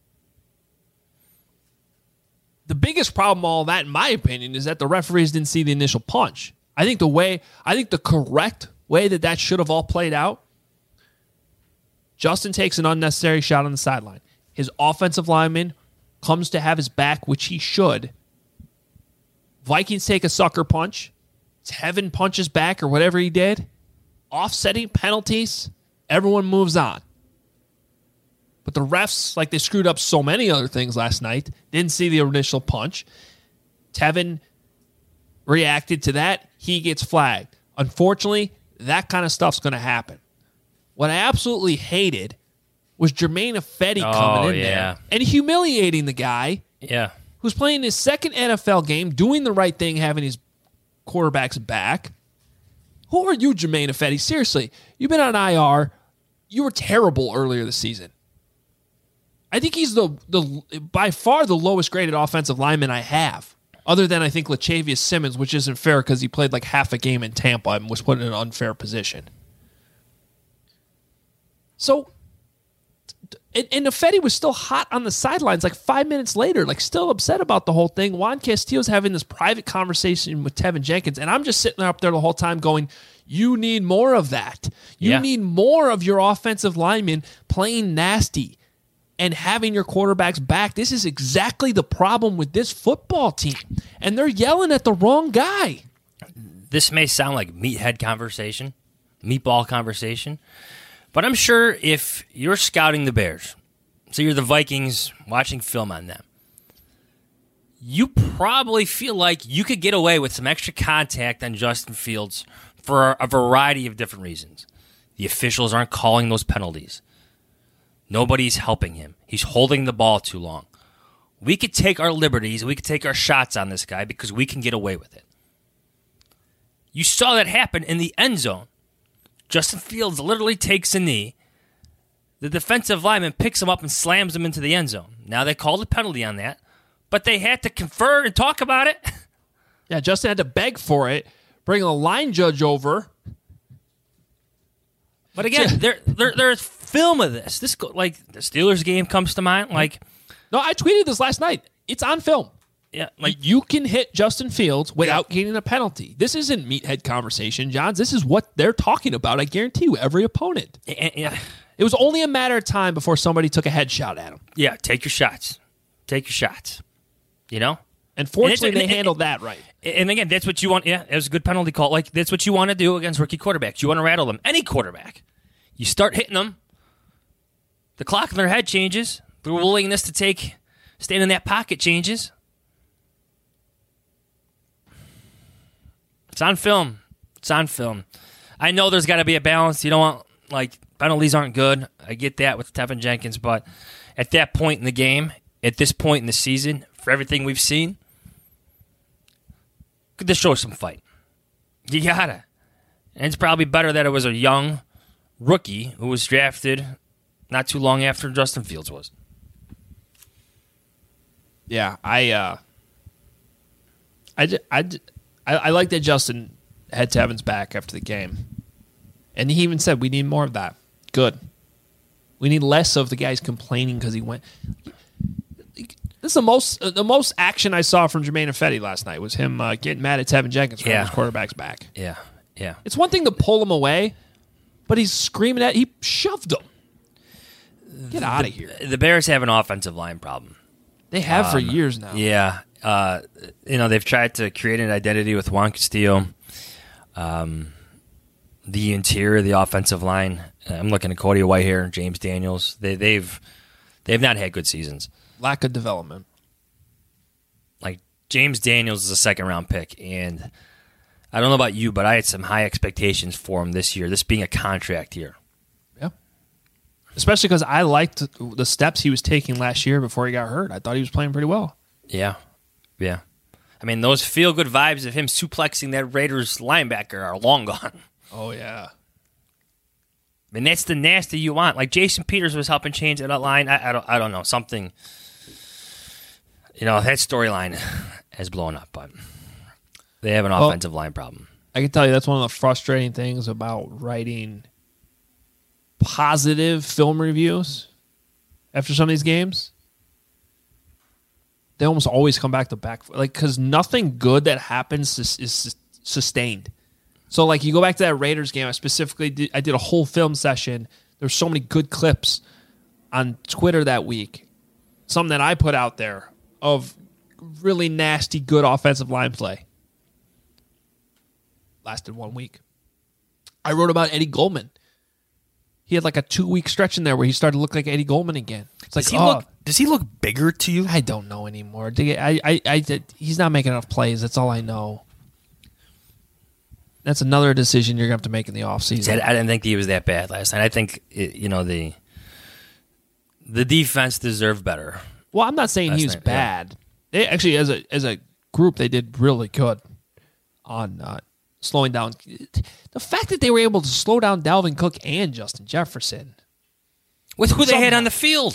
the biggest problem, all that, in my opinion, is that the referees didn't see the initial punch. I think the way, I think the correct way that that should have all played out, Justin takes an unnecessary shot on the sideline. His offensive lineman comes to have his back, which he should. Vikings take a sucker punch. Tevin punches back or whatever he did. Offsetting penalties. Everyone moves on. But the refs, like they screwed up so many other things last night, didn't see the initial punch. Tevin reacted to that. He gets flagged. Unfortunately, that kind of stuff's going to happen. What I absolutely hated was Jermaine Ifedi Oh, coming in yeah. there and humiliating the guy Yeah. who's playing his second N F L game, doing the right thing, having his quarterback's back. Who are you, Jermaine Ifedi? Seriously, you've been on I R. You were terrible earlier this season. I think he's the the by far the lowest graded offensive lineman I have, other than I think Latavius Simmons, which isn't fair because he played like half a game in Tampa and was put in an unfair position. So, and, and Ifedi was still hot on the sidelines like five minutes later, like still upset about the whole thing. Juan Castillo's having this private conversation with Tevin Jenkins, and I'm just sitting there up there the whole time going, you need more of that. You Yeah. need more of your offensive linemen playing nasty and having your quarterbacks back. This is exactly the problem with this football team. And they're yelling at the wrong guy. This may sound like meathead conversation, meatball conversation, but I'm sure if you're scouting the Bears, so you're the Vikings watching film on them, you probably feel like you could get away with some extra contact on Justin Fields for a variety of different reasons. The officials aren't calling those penalties. Nobody's helping him. He's holding the ball too long. We could take our liberties, we could take our shots on this guy because we can get away with it. You saw that happen in the end zone. Justin Fields literally takes a knee. The defensive lineman picks him up and slams him into the end zone. Now they called a penalty on that, but they had to confer and talk about it. Yeah, Justin had to beg for it, bring a line judge over. But again, there, there, there's film of this. This go, like the Steelers game comes to mind. Like, no, I tweeted this last night. It's on film. yeah, like You can hit Justin Fields without getting a penalty. This isn't meathead conversation, Johns. This is what they're talking about. I guarantee you, every opponent. yeah, It was only a matter of time before somebody took a headshot at him. yeah. Take your shots. Take your shots. You know. And fortunately, And they it's- and- handled that right. And again, that's what you want. Yeah, it was a good penalty call. Like, that's what you want to do against rookie quarterbacks. You want to rattle them. Any quarterback. You start hitting them. The clock in their head changes. The willingness to take, stand in that pocket changes. It's on film. It's on film. I know there's got to be a balance. You don't want Like, penalties aren't good. I get that with Tevin Jenkins, but at that point in the game, at this point in the season, for everything we've seen, could this show some fight? You gotta. And it's probably better that it was a young rookie who was drafted not too long after Justin Fields was. Yeah, I, uh, I, ju- I, ju- I, I like that Justin had Tevin's back after the game. And he even said, we need more of that. Good. We need less of the guys complaining because he went. This is the most uh, the most action I saw from Jermaine Ifedi last night was him uh, getting mad at Tevin Jenkins for Yeah. his quarterback's back. Yeah, yeah. It's one thing to pull him away, but he's screaming at. He shoved him. Get out of here. The Bears have an offensive line problem. They have for Um, years now. Yeah. Uh, you know, they've tried to create an identity with Juan Castillo. Um, the interior of the offensive line. I'm looking at Cody Whitehair and James Daniels. They, they've they've not had good seasons. Lack of development. Like, James Daniels is a second-round pick, and I don't know about you, but I had some high expectations for him this year, this being a contract year. Yeah. Especially because I liked the steps he was taking last year before he got hurt. I thought he was playing pretty well. Yeah, yeah. I mean, those feel-good vibes of him suplexing that Raiders linebacker are long gone. Oh, yeah. I mean, that's the nasty you want. Like, Jason Peters was helping change that line. I, I don't I don't know. Something, you know, that storyline has blown up, but they have an Well, offensive line problem. I can tell you that's one of the frustrating things about writing positive film reviews after some of these games. They almost always come back to back, like, because nothing good that happens is, is sustained. So, like, you go back to that Raiders game. I specifically did, I did a whole film session. There's so many good clips on Twitter that week. Something that I put out there of really nasty, good offensive line play. Lasted one week. I wrote about Eddie Goldman. He had like a two-week stretch in there where he started to look like Eddie Goldman again. It's like, Does he oh, look? Does he look bigger to you? I don't know anymore. I, I, I, he's not making enough plays. That's all I know. That's another decision you're going to have to make in the offseason. I didn't think he was that bad last night. I think, it, you know, the the defense deserved better. Well, I'm not saying he was night, bad. Yeah. They actually, as a as a group, they did really good on uh, slowing down. The fact that they were able to slow down Dalvin Cook and Justin Jefferson. With who they Somehow. had on the field.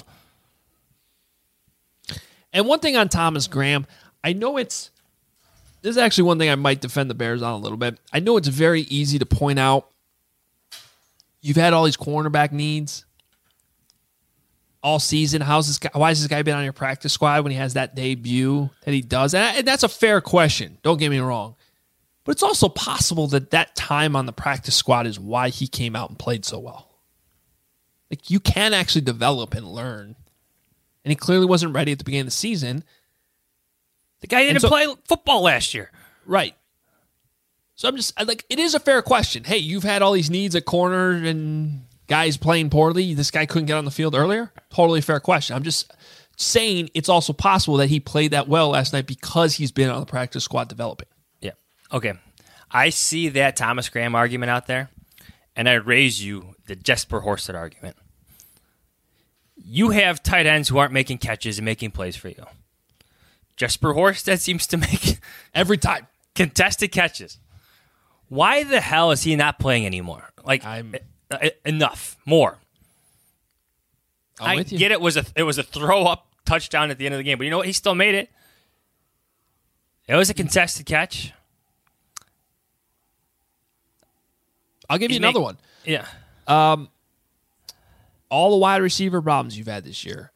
And one thing on Thomas Graham, I know it's... This is actually one thing I might defend the Bears on a little bit. I know it's very easy to point out you've had all these cornerback needs all season. How's this guy? Why has this guy been on your practice squad when he has that debut that he does? And that's a fair question. Don't get me wrong. But it's also possible that that time on the practice squad is why he came out and played so well. Like, you can actually develop and learn. And he clearly wasn't ready at the beginning of the season. The guy didn't so, play football last year. Right. So I'm just, like, it is a fair question. Hey, you've had all these needs at corner and guys playing poorly. This guy couldn't get on the field earlier? Totally fair question. I'm just saying it's also possible that he played that well last night because he's been on the practice squad developing. Yeah. Okay. I see that Thomas Graham argument out there, and I raise you the Jesper Horsted argument. You have tight ends who aren't making catches and making plays for you. Jesper Horsted seems to make every time contested catches. Why the hell is he not playing anymore? Like, I'm enough, more. I'm I with you. get it was a it was a throw up touchdown at the end of the game, but you know what? He still made it. It was a contested catch. I'll give He's you another make, one. Yeah. Um, all the wide receiver problems you've had this year.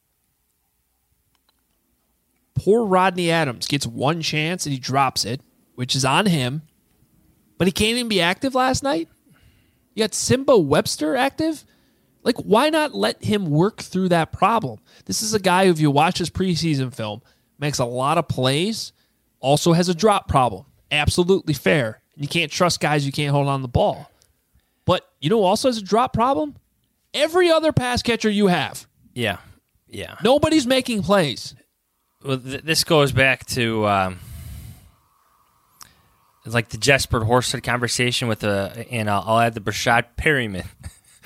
Poor Rodney Adams gets one chance and he drops it, which is on him. But he can't even be active last night. You got Simba Webster active. Like, why not let him work through that problem? This is a guy who, if you watch his preseason film, makes a lot of plays, also has a drop problem. Absolutely fair. You can't trust guys who can't hold on the ball. But you know who also has a drop problem? Every other pass catcher you have. Yeah. Yeah. Nobody's making plays. Well, th- this goes back to um, like the Jesper Horsted conversation with the, and I'll, I'll add the Brashad Perryman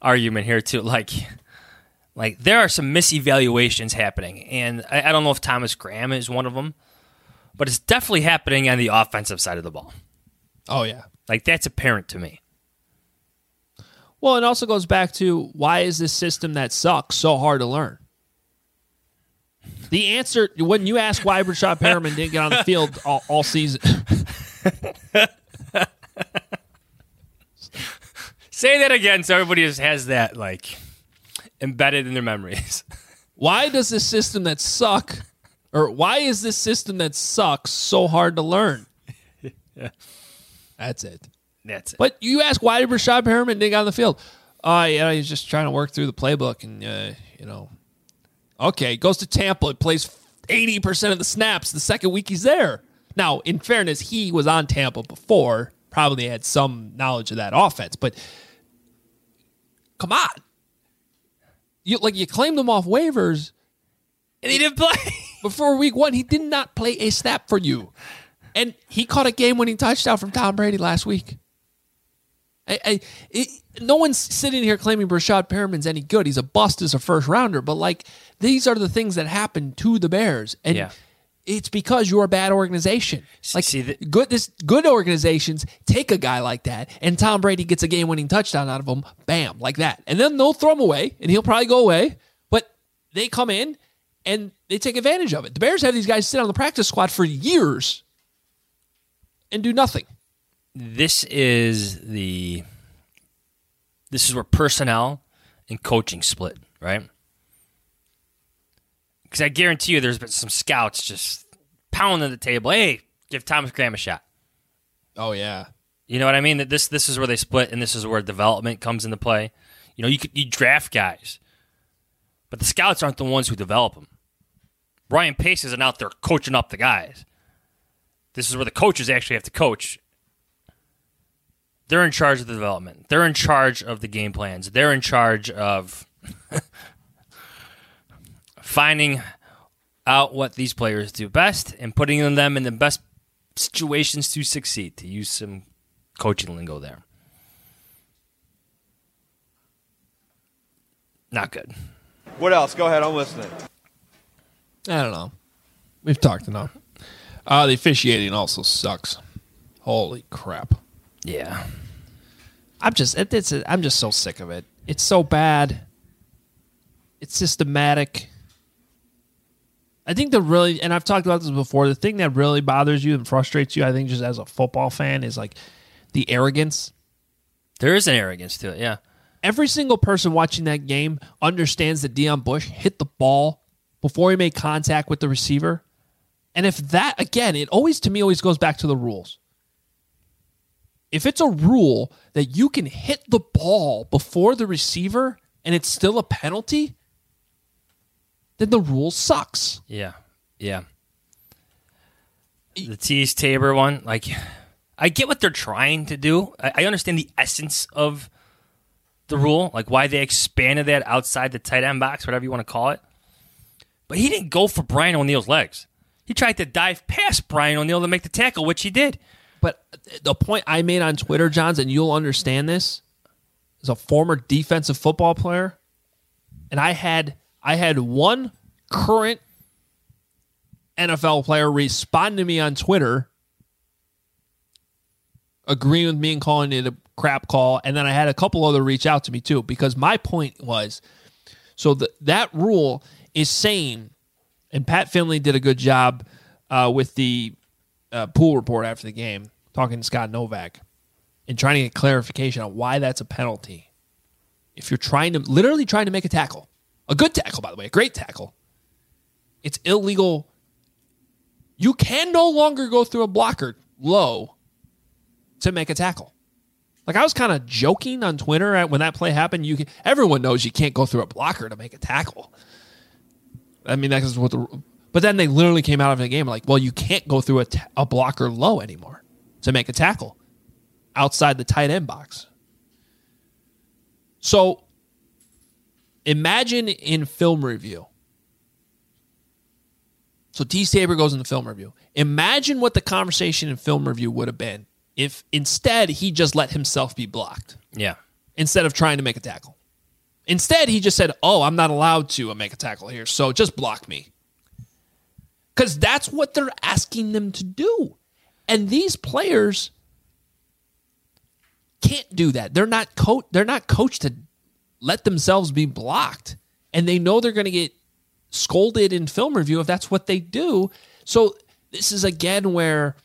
argument here too. Like, like there are some misevaluations happening, and I, I don't know if Thomas Graham is one of them, but it's definitely happening on the offensive side of the ball. Oh yeah, like that's apparent to me. Well, it also goes back to why is this system that sucks so hard to learn? The answer, when you ask why Brashad Perriman didn't get on the field all, all season. Say that again so everybody just has that like embedded in their memories. Why does this system that suck, or why is this system that sucks so hard to learn? Yeah. That's it. That's it. But you ask why did Brashad Perriman didn't get on the field? Uh, yeah, he's just trying to work through the playbook, and uh, you know, okay, goes to Tampa and plays eighty percent of the snaps the second week he's there. Now, in fairness, he was on Tampa before, probably had some knowledge of that offense, but come on. You like you claimed him off waivers, and he didn't play. Before week one, he did not play a snap for you. And he caught a game-winning touchdown from Tom Brady last week. I, I, it, no one's sitting here claiming Brashad Perriman's any good. He's a bust as a first-rounder. But, like, these are the things that happen to the Bears. And yeah. it's because you're a bad organization. Like, See, the- good this good organizations take a guy like that, and Tom Brady gets a game-winning touchdown out of him, bam, like that. And then they'll throw him away, and he'll probably go away. But they come in, and they take advantage of it. The Bears have these guys sit on the practice squad for years and do nothing. This is the this is where personnel and coaching split, right? Because I guarantee you there's been some scouts just pounding the table. Hey, give Thomas Graham a shot. Oh, yeah. You know what I mean? That this this is where they split, and this is where development comes into play. You know, you could, you draft guys, but the scouts aren't the ones who develop them. Ryan Pace isn't out there coaching up the guys. This is where the coaches actually have to coach. They're in charge of the development. They're in charge of the game plans. They're in charge of finding out what these players do best and putting them in the best situations to succeed, to use some coaching lingo there. Not good. What else? Go ahead. I'm listening. I don't know. We've talked enough. Uh, the officiating also sucks. Holy crap. Yeah. I'm just it, it's I'm just so sick of it. It's so bad. It's systematic. I think the really, and I've talked about this before, the thing that really bothers you and frustrates you, I think, just as a football fan, is like the arrogance. There is an arrogance to it, yeah. Every single person watching that game understands that Deion Bush hit the ball before he made contact with the receiver. And if that, again, it always, to me, always goes back to the rules. If it's a rule that you can hit the ball before the receiver and it's still a penalty, then the rule sucks. Yeah, yeah. The Tease Tabor one, like, I get what they're trying to do. I, I understand the essence of the rule, like why they expanded that outside the tight end box, whatever you want to call it. But he didn't go for Brian O'Neill's legs. He tried to dive past Brian O'Neill to make the tackle, which he did. But the point I made on Twitter, Johns, and you'll understand this, as a former defensive football player, and I had I had one current N F L player respond to me on Twitter, agreeing with me and calling it a crap call, and then I had a couple other reach out to me too, because my point was, so the, that rule is saying, and Pat Finley did a good job uh, with the uh, pool report after the game, talking to Scott Novak, and trying to get clarification on why that's a penalty. If you're trying to, literally trying to make a tackle, a good tackle, by the way, a great tackle, it's illegal. You can no longer go through a blocker low to make a tackle. Like, I was kind of joking on Twitter at when that play happened. You can, everyone knows you can't go through a blocker to make a tackle. I mean, that's what the. But then they literally came out of the game like, well, you can't go through a, t- a blocker low anymore to make a tackle outside the tight end box. So imagine in film review. So T. Tabor goes into film review. Imagine what the conversation in film review would have been if instead he just let himself be blocked. Yeah. Instead of trying to make a tackle. Instead, he just said, oh, I'm not allowed to make a tackle here, so just block me. Because that's what they're asking them to do. And these players can't do that. They're not co- They're not coached to let themselves be blocked. And they know they're going to get scolded in film review if that's what they do. So this is, again, where...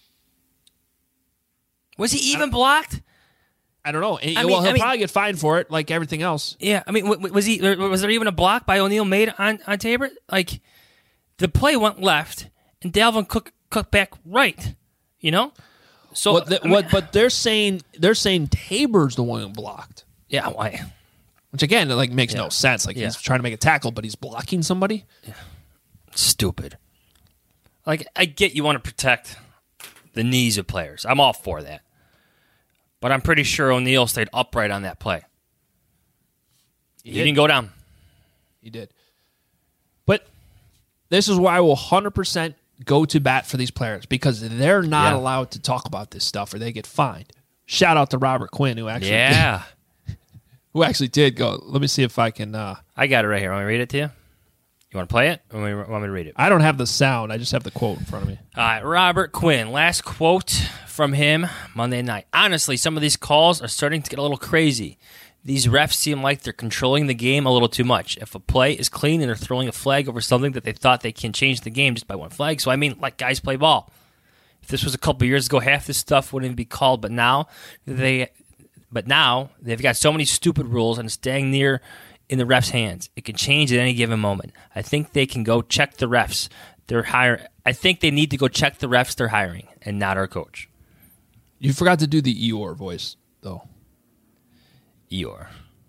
Was he even blocked? I don't know. I well, mean, he'll I mean, probably get fined for it, like everything else. Yeah, I mean, was he? Was there even a block by O'Neal made on, on Tabor? Like, the play went left, and Dalvin Cook cut back right. You know, so what? The, I mean, what? But they're saying they're saying Tabor's the one who blocked. Yeah, why? Which again, it like makes yeah. no sense. Like yeah. he's trying to make a tackle, but he's blocking somebody. Yeah. Stupid. Like, I get you want to protect the knees of players. I'm all for that. But I'm pretty sure O'Neal stayed upright on that play. He, he didn't go down. He did. But this is why I will one hundred percent go to bat for these players, because they're not yeah. allowed to talk about this stuff or they get fined. Shout out to Robert Quinn, who actually yeah. who actually did go. Let me see if I can... Uh, I got it right here. Want me to read it to you? You want to play it? Or want me to read it? I don't have the sound. I just have the quote in front of me. All right, Robert Quinn. Last quote from him Monday night. Honestly, some of these calls are starting to get a little crazy. These refs seem like they're controlling the game a little too much. If a play is clean and they're throwing a flag over something that they thought they can change the game just by one flag. So, I mean, let guys play ball. If this was a couple years ago, half this stuff wouldn't even be called. But now, they, but now they've got so many stupid rules and it's dang near in the refs' hands. It can change at any given moment. I think they can go check the refs. They're hiring. I think they need to go check the refs they're hiring and not our coach. You forgot to do the Eeyore voice, though. Eeyore.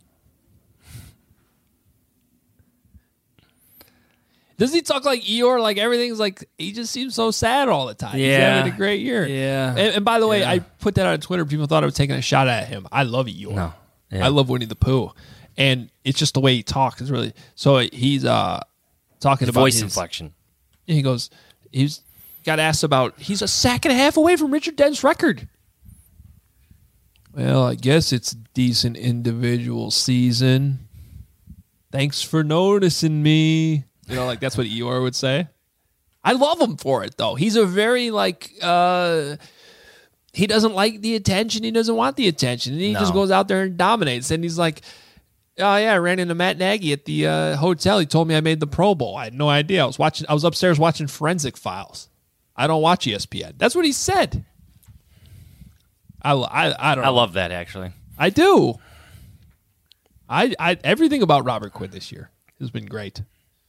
Doesn't he talk like Eeyore? Like everything's like, he just seems so sad all the time. Yeah. He's having a great year. Yeah. And, and by the way, yeah. I put that on Twitter. People thought I was taking a shot at him. I love Eeyore. No. Yeah. I love Winnie the Pooh. And it's just the way he talks is really... So he's uh, talking his about voice his, inflection. He goes, he's got asked about, he's a sack and a half away from Richard Dent's record. Well, I guess it's a decent individual season. Thanks for noticing me. You know, like that's what Eeyore would say. I love him for it, though. He's a very, like, uh, he doesn't like the attention. He doesn't want the attention. And he No. just goes out there and dominates. And he's like, oh, yeah, I ran into Matt Nagy at the uh, hotel. He told me I made the Pro Bowl. I had no idea. I was watching. I was upstairs watching Forensic Files. I don't watch E S P N. That's what he said. I, I, I don't know. I love that, actually. I do. I, I everything about Robert Quinn this year has been great.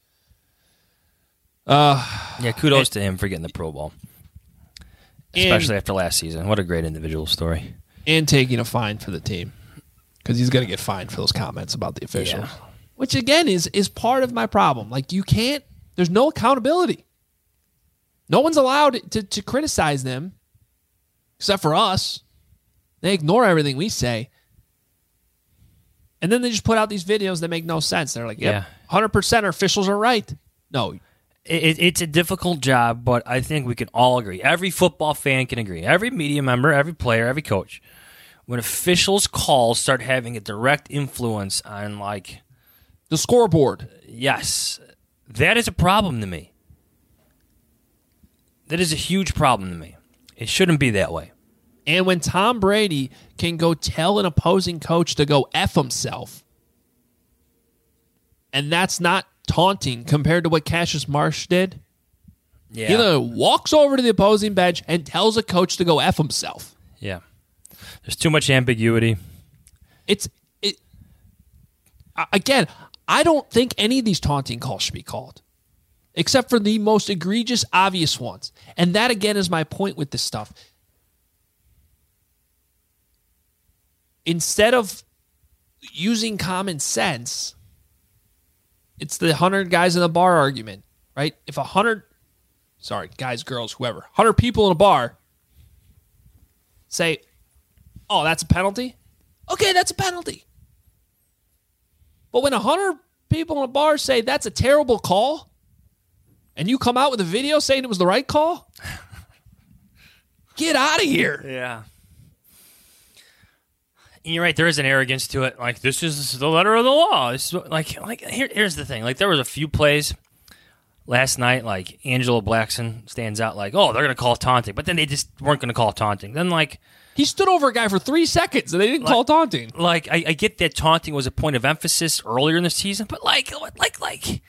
Uh, yeah, kudos and, to him for getting the Pro Bowl. Especially and, after last season. What a great individual story. And taking a fine for the team. Because he's going to get fined for those comments about the officials. Yeah. Which, again, is is part of my problem. Like, you can't, there's no accountability. No one's allowed to, to criticize them, except for us. They ignore everything we say. And then they just put out these videos that make no sense. They're like, yep, yeah, one hundred percent our officials are right. No. It, it's a difficult job, but I think we can all agree. Every football fan can agree. Every media member, every player, every coach. When officials' calls start having a direct influence on, like... the scoreboard. Yes. That is a problem to me. That is a huge problem to me. It shouldn't be that way. And when Tom Brady can go tell an opposing coach to go F himself, and that's not taunting compared to what Cassius Marsh did, yeah. he literally walks over to the opposing bench and tells a coach to go F himself. Yeah. There's too much ambiguity. It's it. Again, I don't think any of these taunting calls should be called, except for the most egregious, obvious ones. And that, again, is my point with this stuff. Instead of using common sense, it's the hundred guys in the bar argument, right? If a hundred, sorry, guys, girls, whoever, hundred people in a bar say, oh, that's a penalty? Okay, that's a penalty. But when a hundred people in a bar say that's a terrible call, and you come out with a video saying it was the right call, get out of here. Yeah. And you're right. There is an arrogance to it. Like, this is the letter of the law. This is what, like, like here, here's the thing. Like, there was a few plays last night. Like, Angelo Blackson stands out. Like, oh, they're going to call taunting, but then they just weren't going to call taunting. Then, like, he stood over a guy for three seconds, and they didn't like, call taunting. Like, I, I get that taunting was a point of emphasis earlier in the season, but like, like, like,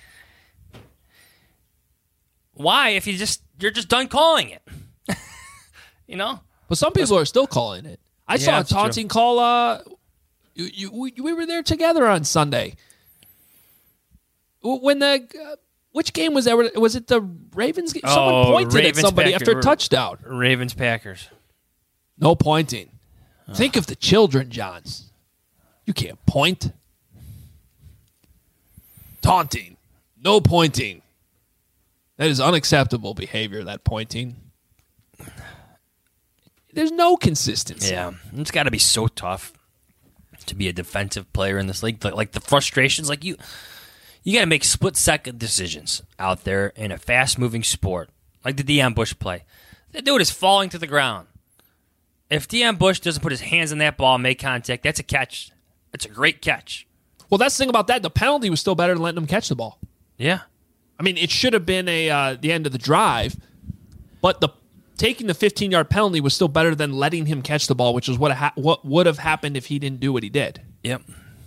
why? If you just you're just done calling it, you know. But some people are still calling it. I Yeah, saw a that's taunting true. call. Uh, you, you, we, we were there together on Sunday. When the uh, which game was that? Was it the Ravens game? Someone Oh, pointed Ravens at somebody Packers. after a touchdown. Ravens Packers. No pointing. Think of the children, Johns. You can't point. Taunting. No pointing. That is unacceptable behavior, that pointing. There's no consistency. Yeah, it's got to be so tough to be a defensive player in this league. Like, like the frustrations, like you, you got to make split-second decisions out there in a fast-moving sport, like the Deion Bush play. The dude is falling to the ground. If Deion Bush doesn't put his hands on that ball and make contact, that's a catch. It's a great catch. Well, that's the thing about that. The penalty was still better than letting him catch the ball. Yeah. I mean, it should have been a uh, the end of the drive, but the taking the fifteen-yard penalty was still better than letting him catch the ball, which is what ha- what would have happened if he didn't do what he did. Yep.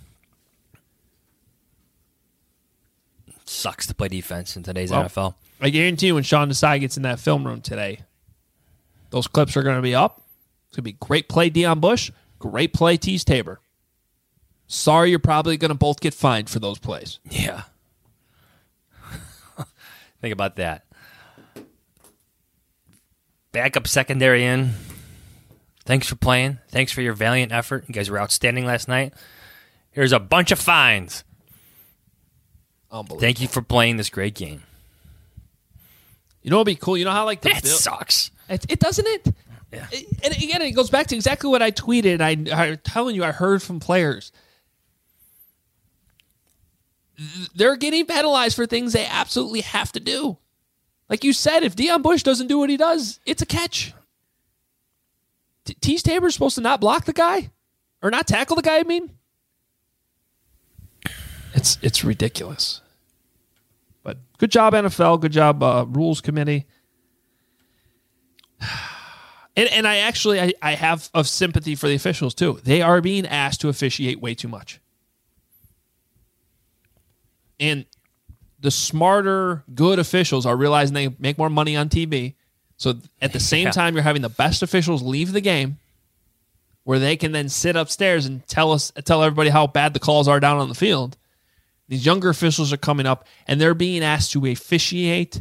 Sucks to play defense in today's Well, N F L. I guarantee you when Sean Desai gets in that film room today, those clips are going to be up. It's going to be great play Deion Bush, great play Tease Tabor. Sorry, you're probably going to both get fined for those plays. Yeah. Think about that. Backup secondary in. Thanks for playing. Thanks for your valiant effort. You guys were outstanding last night. Here's a bunch of fines. Unbelievable. Thank you for playing this great game. You know what would be cool? You know how like the That Bill- sucks. It, it doesn't it? Yeah. It- And again, it goes back to exactly what I tweeted. I, I'm telling you, I heard from players. They're getting penalized for things they absolutely have to do. Like you said, if Deion Bush doesn't do what he does, it's a catch. T- Tease Tabor's supposed to not block the guy? Or not tackle the guy, I mean? It's it's ridiculous. But good job, N F L. Good job, uh, Rules Committee. And, and I actually, I, I have of sympathy for the officials, too. They are being asked to officiate way too much. And the smarter, good officials are realizing they make more money on T V. So at the same Yeah. time, you're having the best officials leave the game where they can then sit upstairs and tell us, tell everybody how bad the calls are down on the field. These younger officials are coming up, and they're being asked to officiate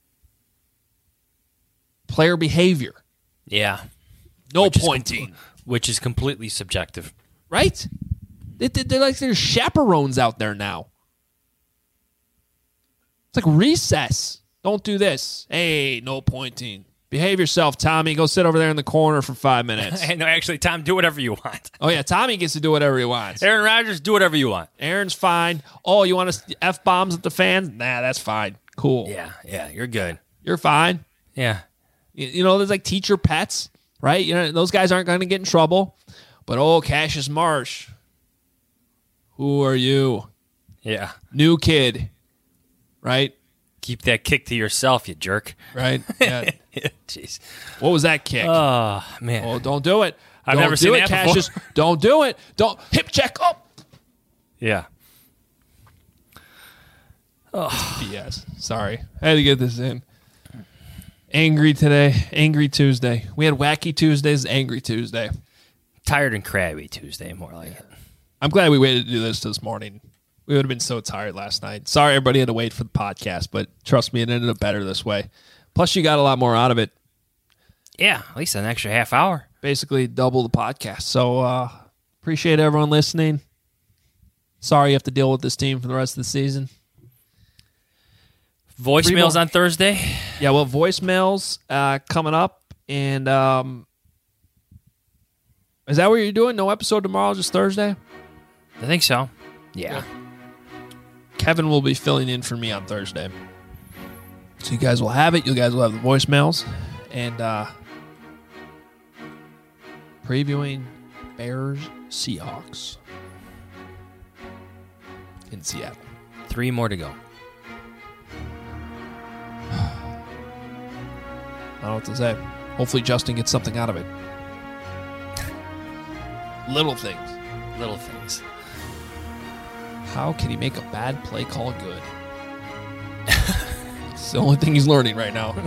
player behavior. Yeah. No Which is pointing. com- which is completely subjective. Right? They, they- they're like there's chaperones out there now. It's like recess. Don't do this. Hey, no pointing. Behave yourself, Tommy. Go sit over there in the corner for five minutes. Hey, no, actually, Tom, do whatever you want. Oh, yeah, Tommy gets to do whatever he wants. Aaron Rodgers, do whatever you want. Aaron's fine. Oh, you want to F-bombs at the fans? Nah, that's fine. Cool. Yeah, yeah, you're good. You're fine. Yeah. You, you know, there's like teacher pets, right? You know, those guys aren't going to get in trouble. But, oh, Cassius Marsh. Who are you? Yeah. New kid. Right? Keep that kick to yourself, you jerk. Right? Yeah. Jeez. What was that kick? Oh, man. Oh, don't do it. I've don't never do seen it, that Cassius. before. Don't do it. Don't hip check up. Yeah. B S. Sorry. I had to get this in. Angry today. Angry Tuesday. We had Wacky Tuesdays, Angry Tuesday. Tired and crabby Tuesday, more like it. I'm glad we waited to do this this morning. We would have been so tired last night. Sorry everybody had to wait for the podcast, but trust me, it ended up better this way. Plus, you got a lot more out of it. Yeah, at least an extra half hour. Basically double the podcast. So uh, appreciate everyone listening. Sorry you have to deal with this team for the rest of the season. Voicemails on Thursday? Yeah, well, voicemails uh, coming up. And um, is that what you're doing? No episode tomorrow, just Thursday? I think so. Yeah. Kevin will be filling in for me on Thursday. So you guys will have it. You guys will have the voicemails. And uh, previewing Bears Seahawks in Seattle. Three more to go. I don't know what to say. Hopefully Justin gets something out of it. Little things. Little things. How can he make a bad play call good? It's the only thing he's learning right now.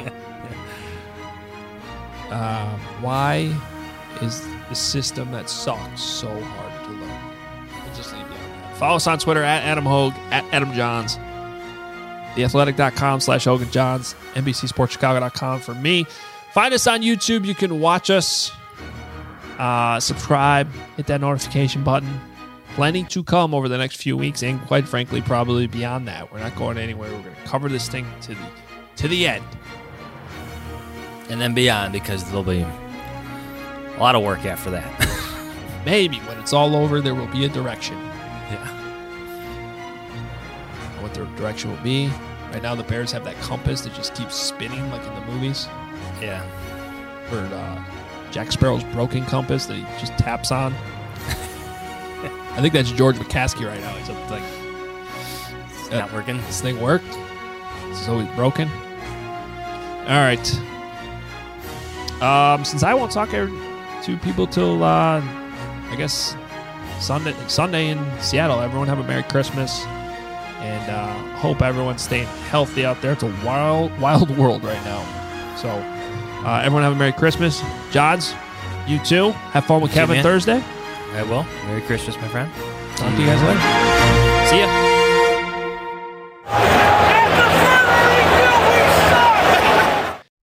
uh, why is the system that sucks so hard to learn? We'll just leave it at that. Follow us on Twitter at Adam Hogue, at Adam Johns, theathletic.com slash Hogan Johns, N B C Sports Chicago dot com for me. Find us on YouTube. You can watch us. Uh, subscribe. Hit that notification button. Plenty to come over the next few weeks, and quite frankly, probably beyond that. We're not going anywhere. We're going to cover this thing to the to the end, and then beyond, because there'll be a lot of work after that. Maybe when it's all over, there will be a direction. Yeah. What the direction will be. Right now, the Bears have that compass that just keeps spinning, like in the movies. Yeah. Or uh, Jack Sparrow's broken compass that he just taps on. I think that's George McCaskey right now. He's like, it's not working. This thing worked. It's always broken. All right. Um, since I won't talk to people till uh, I guess Sunday, Sunday in Seattle. Everyone have a Merry Christmas, and uh, hope everyone's staying healthy out there. It's a wild, wild world right now. So, uh, everyone have a Merry Christmas. Johns, you too. Have fun with Kevin man. Thursday. I will. Merry Christmas, my friend. Talk to you guys later. See ya.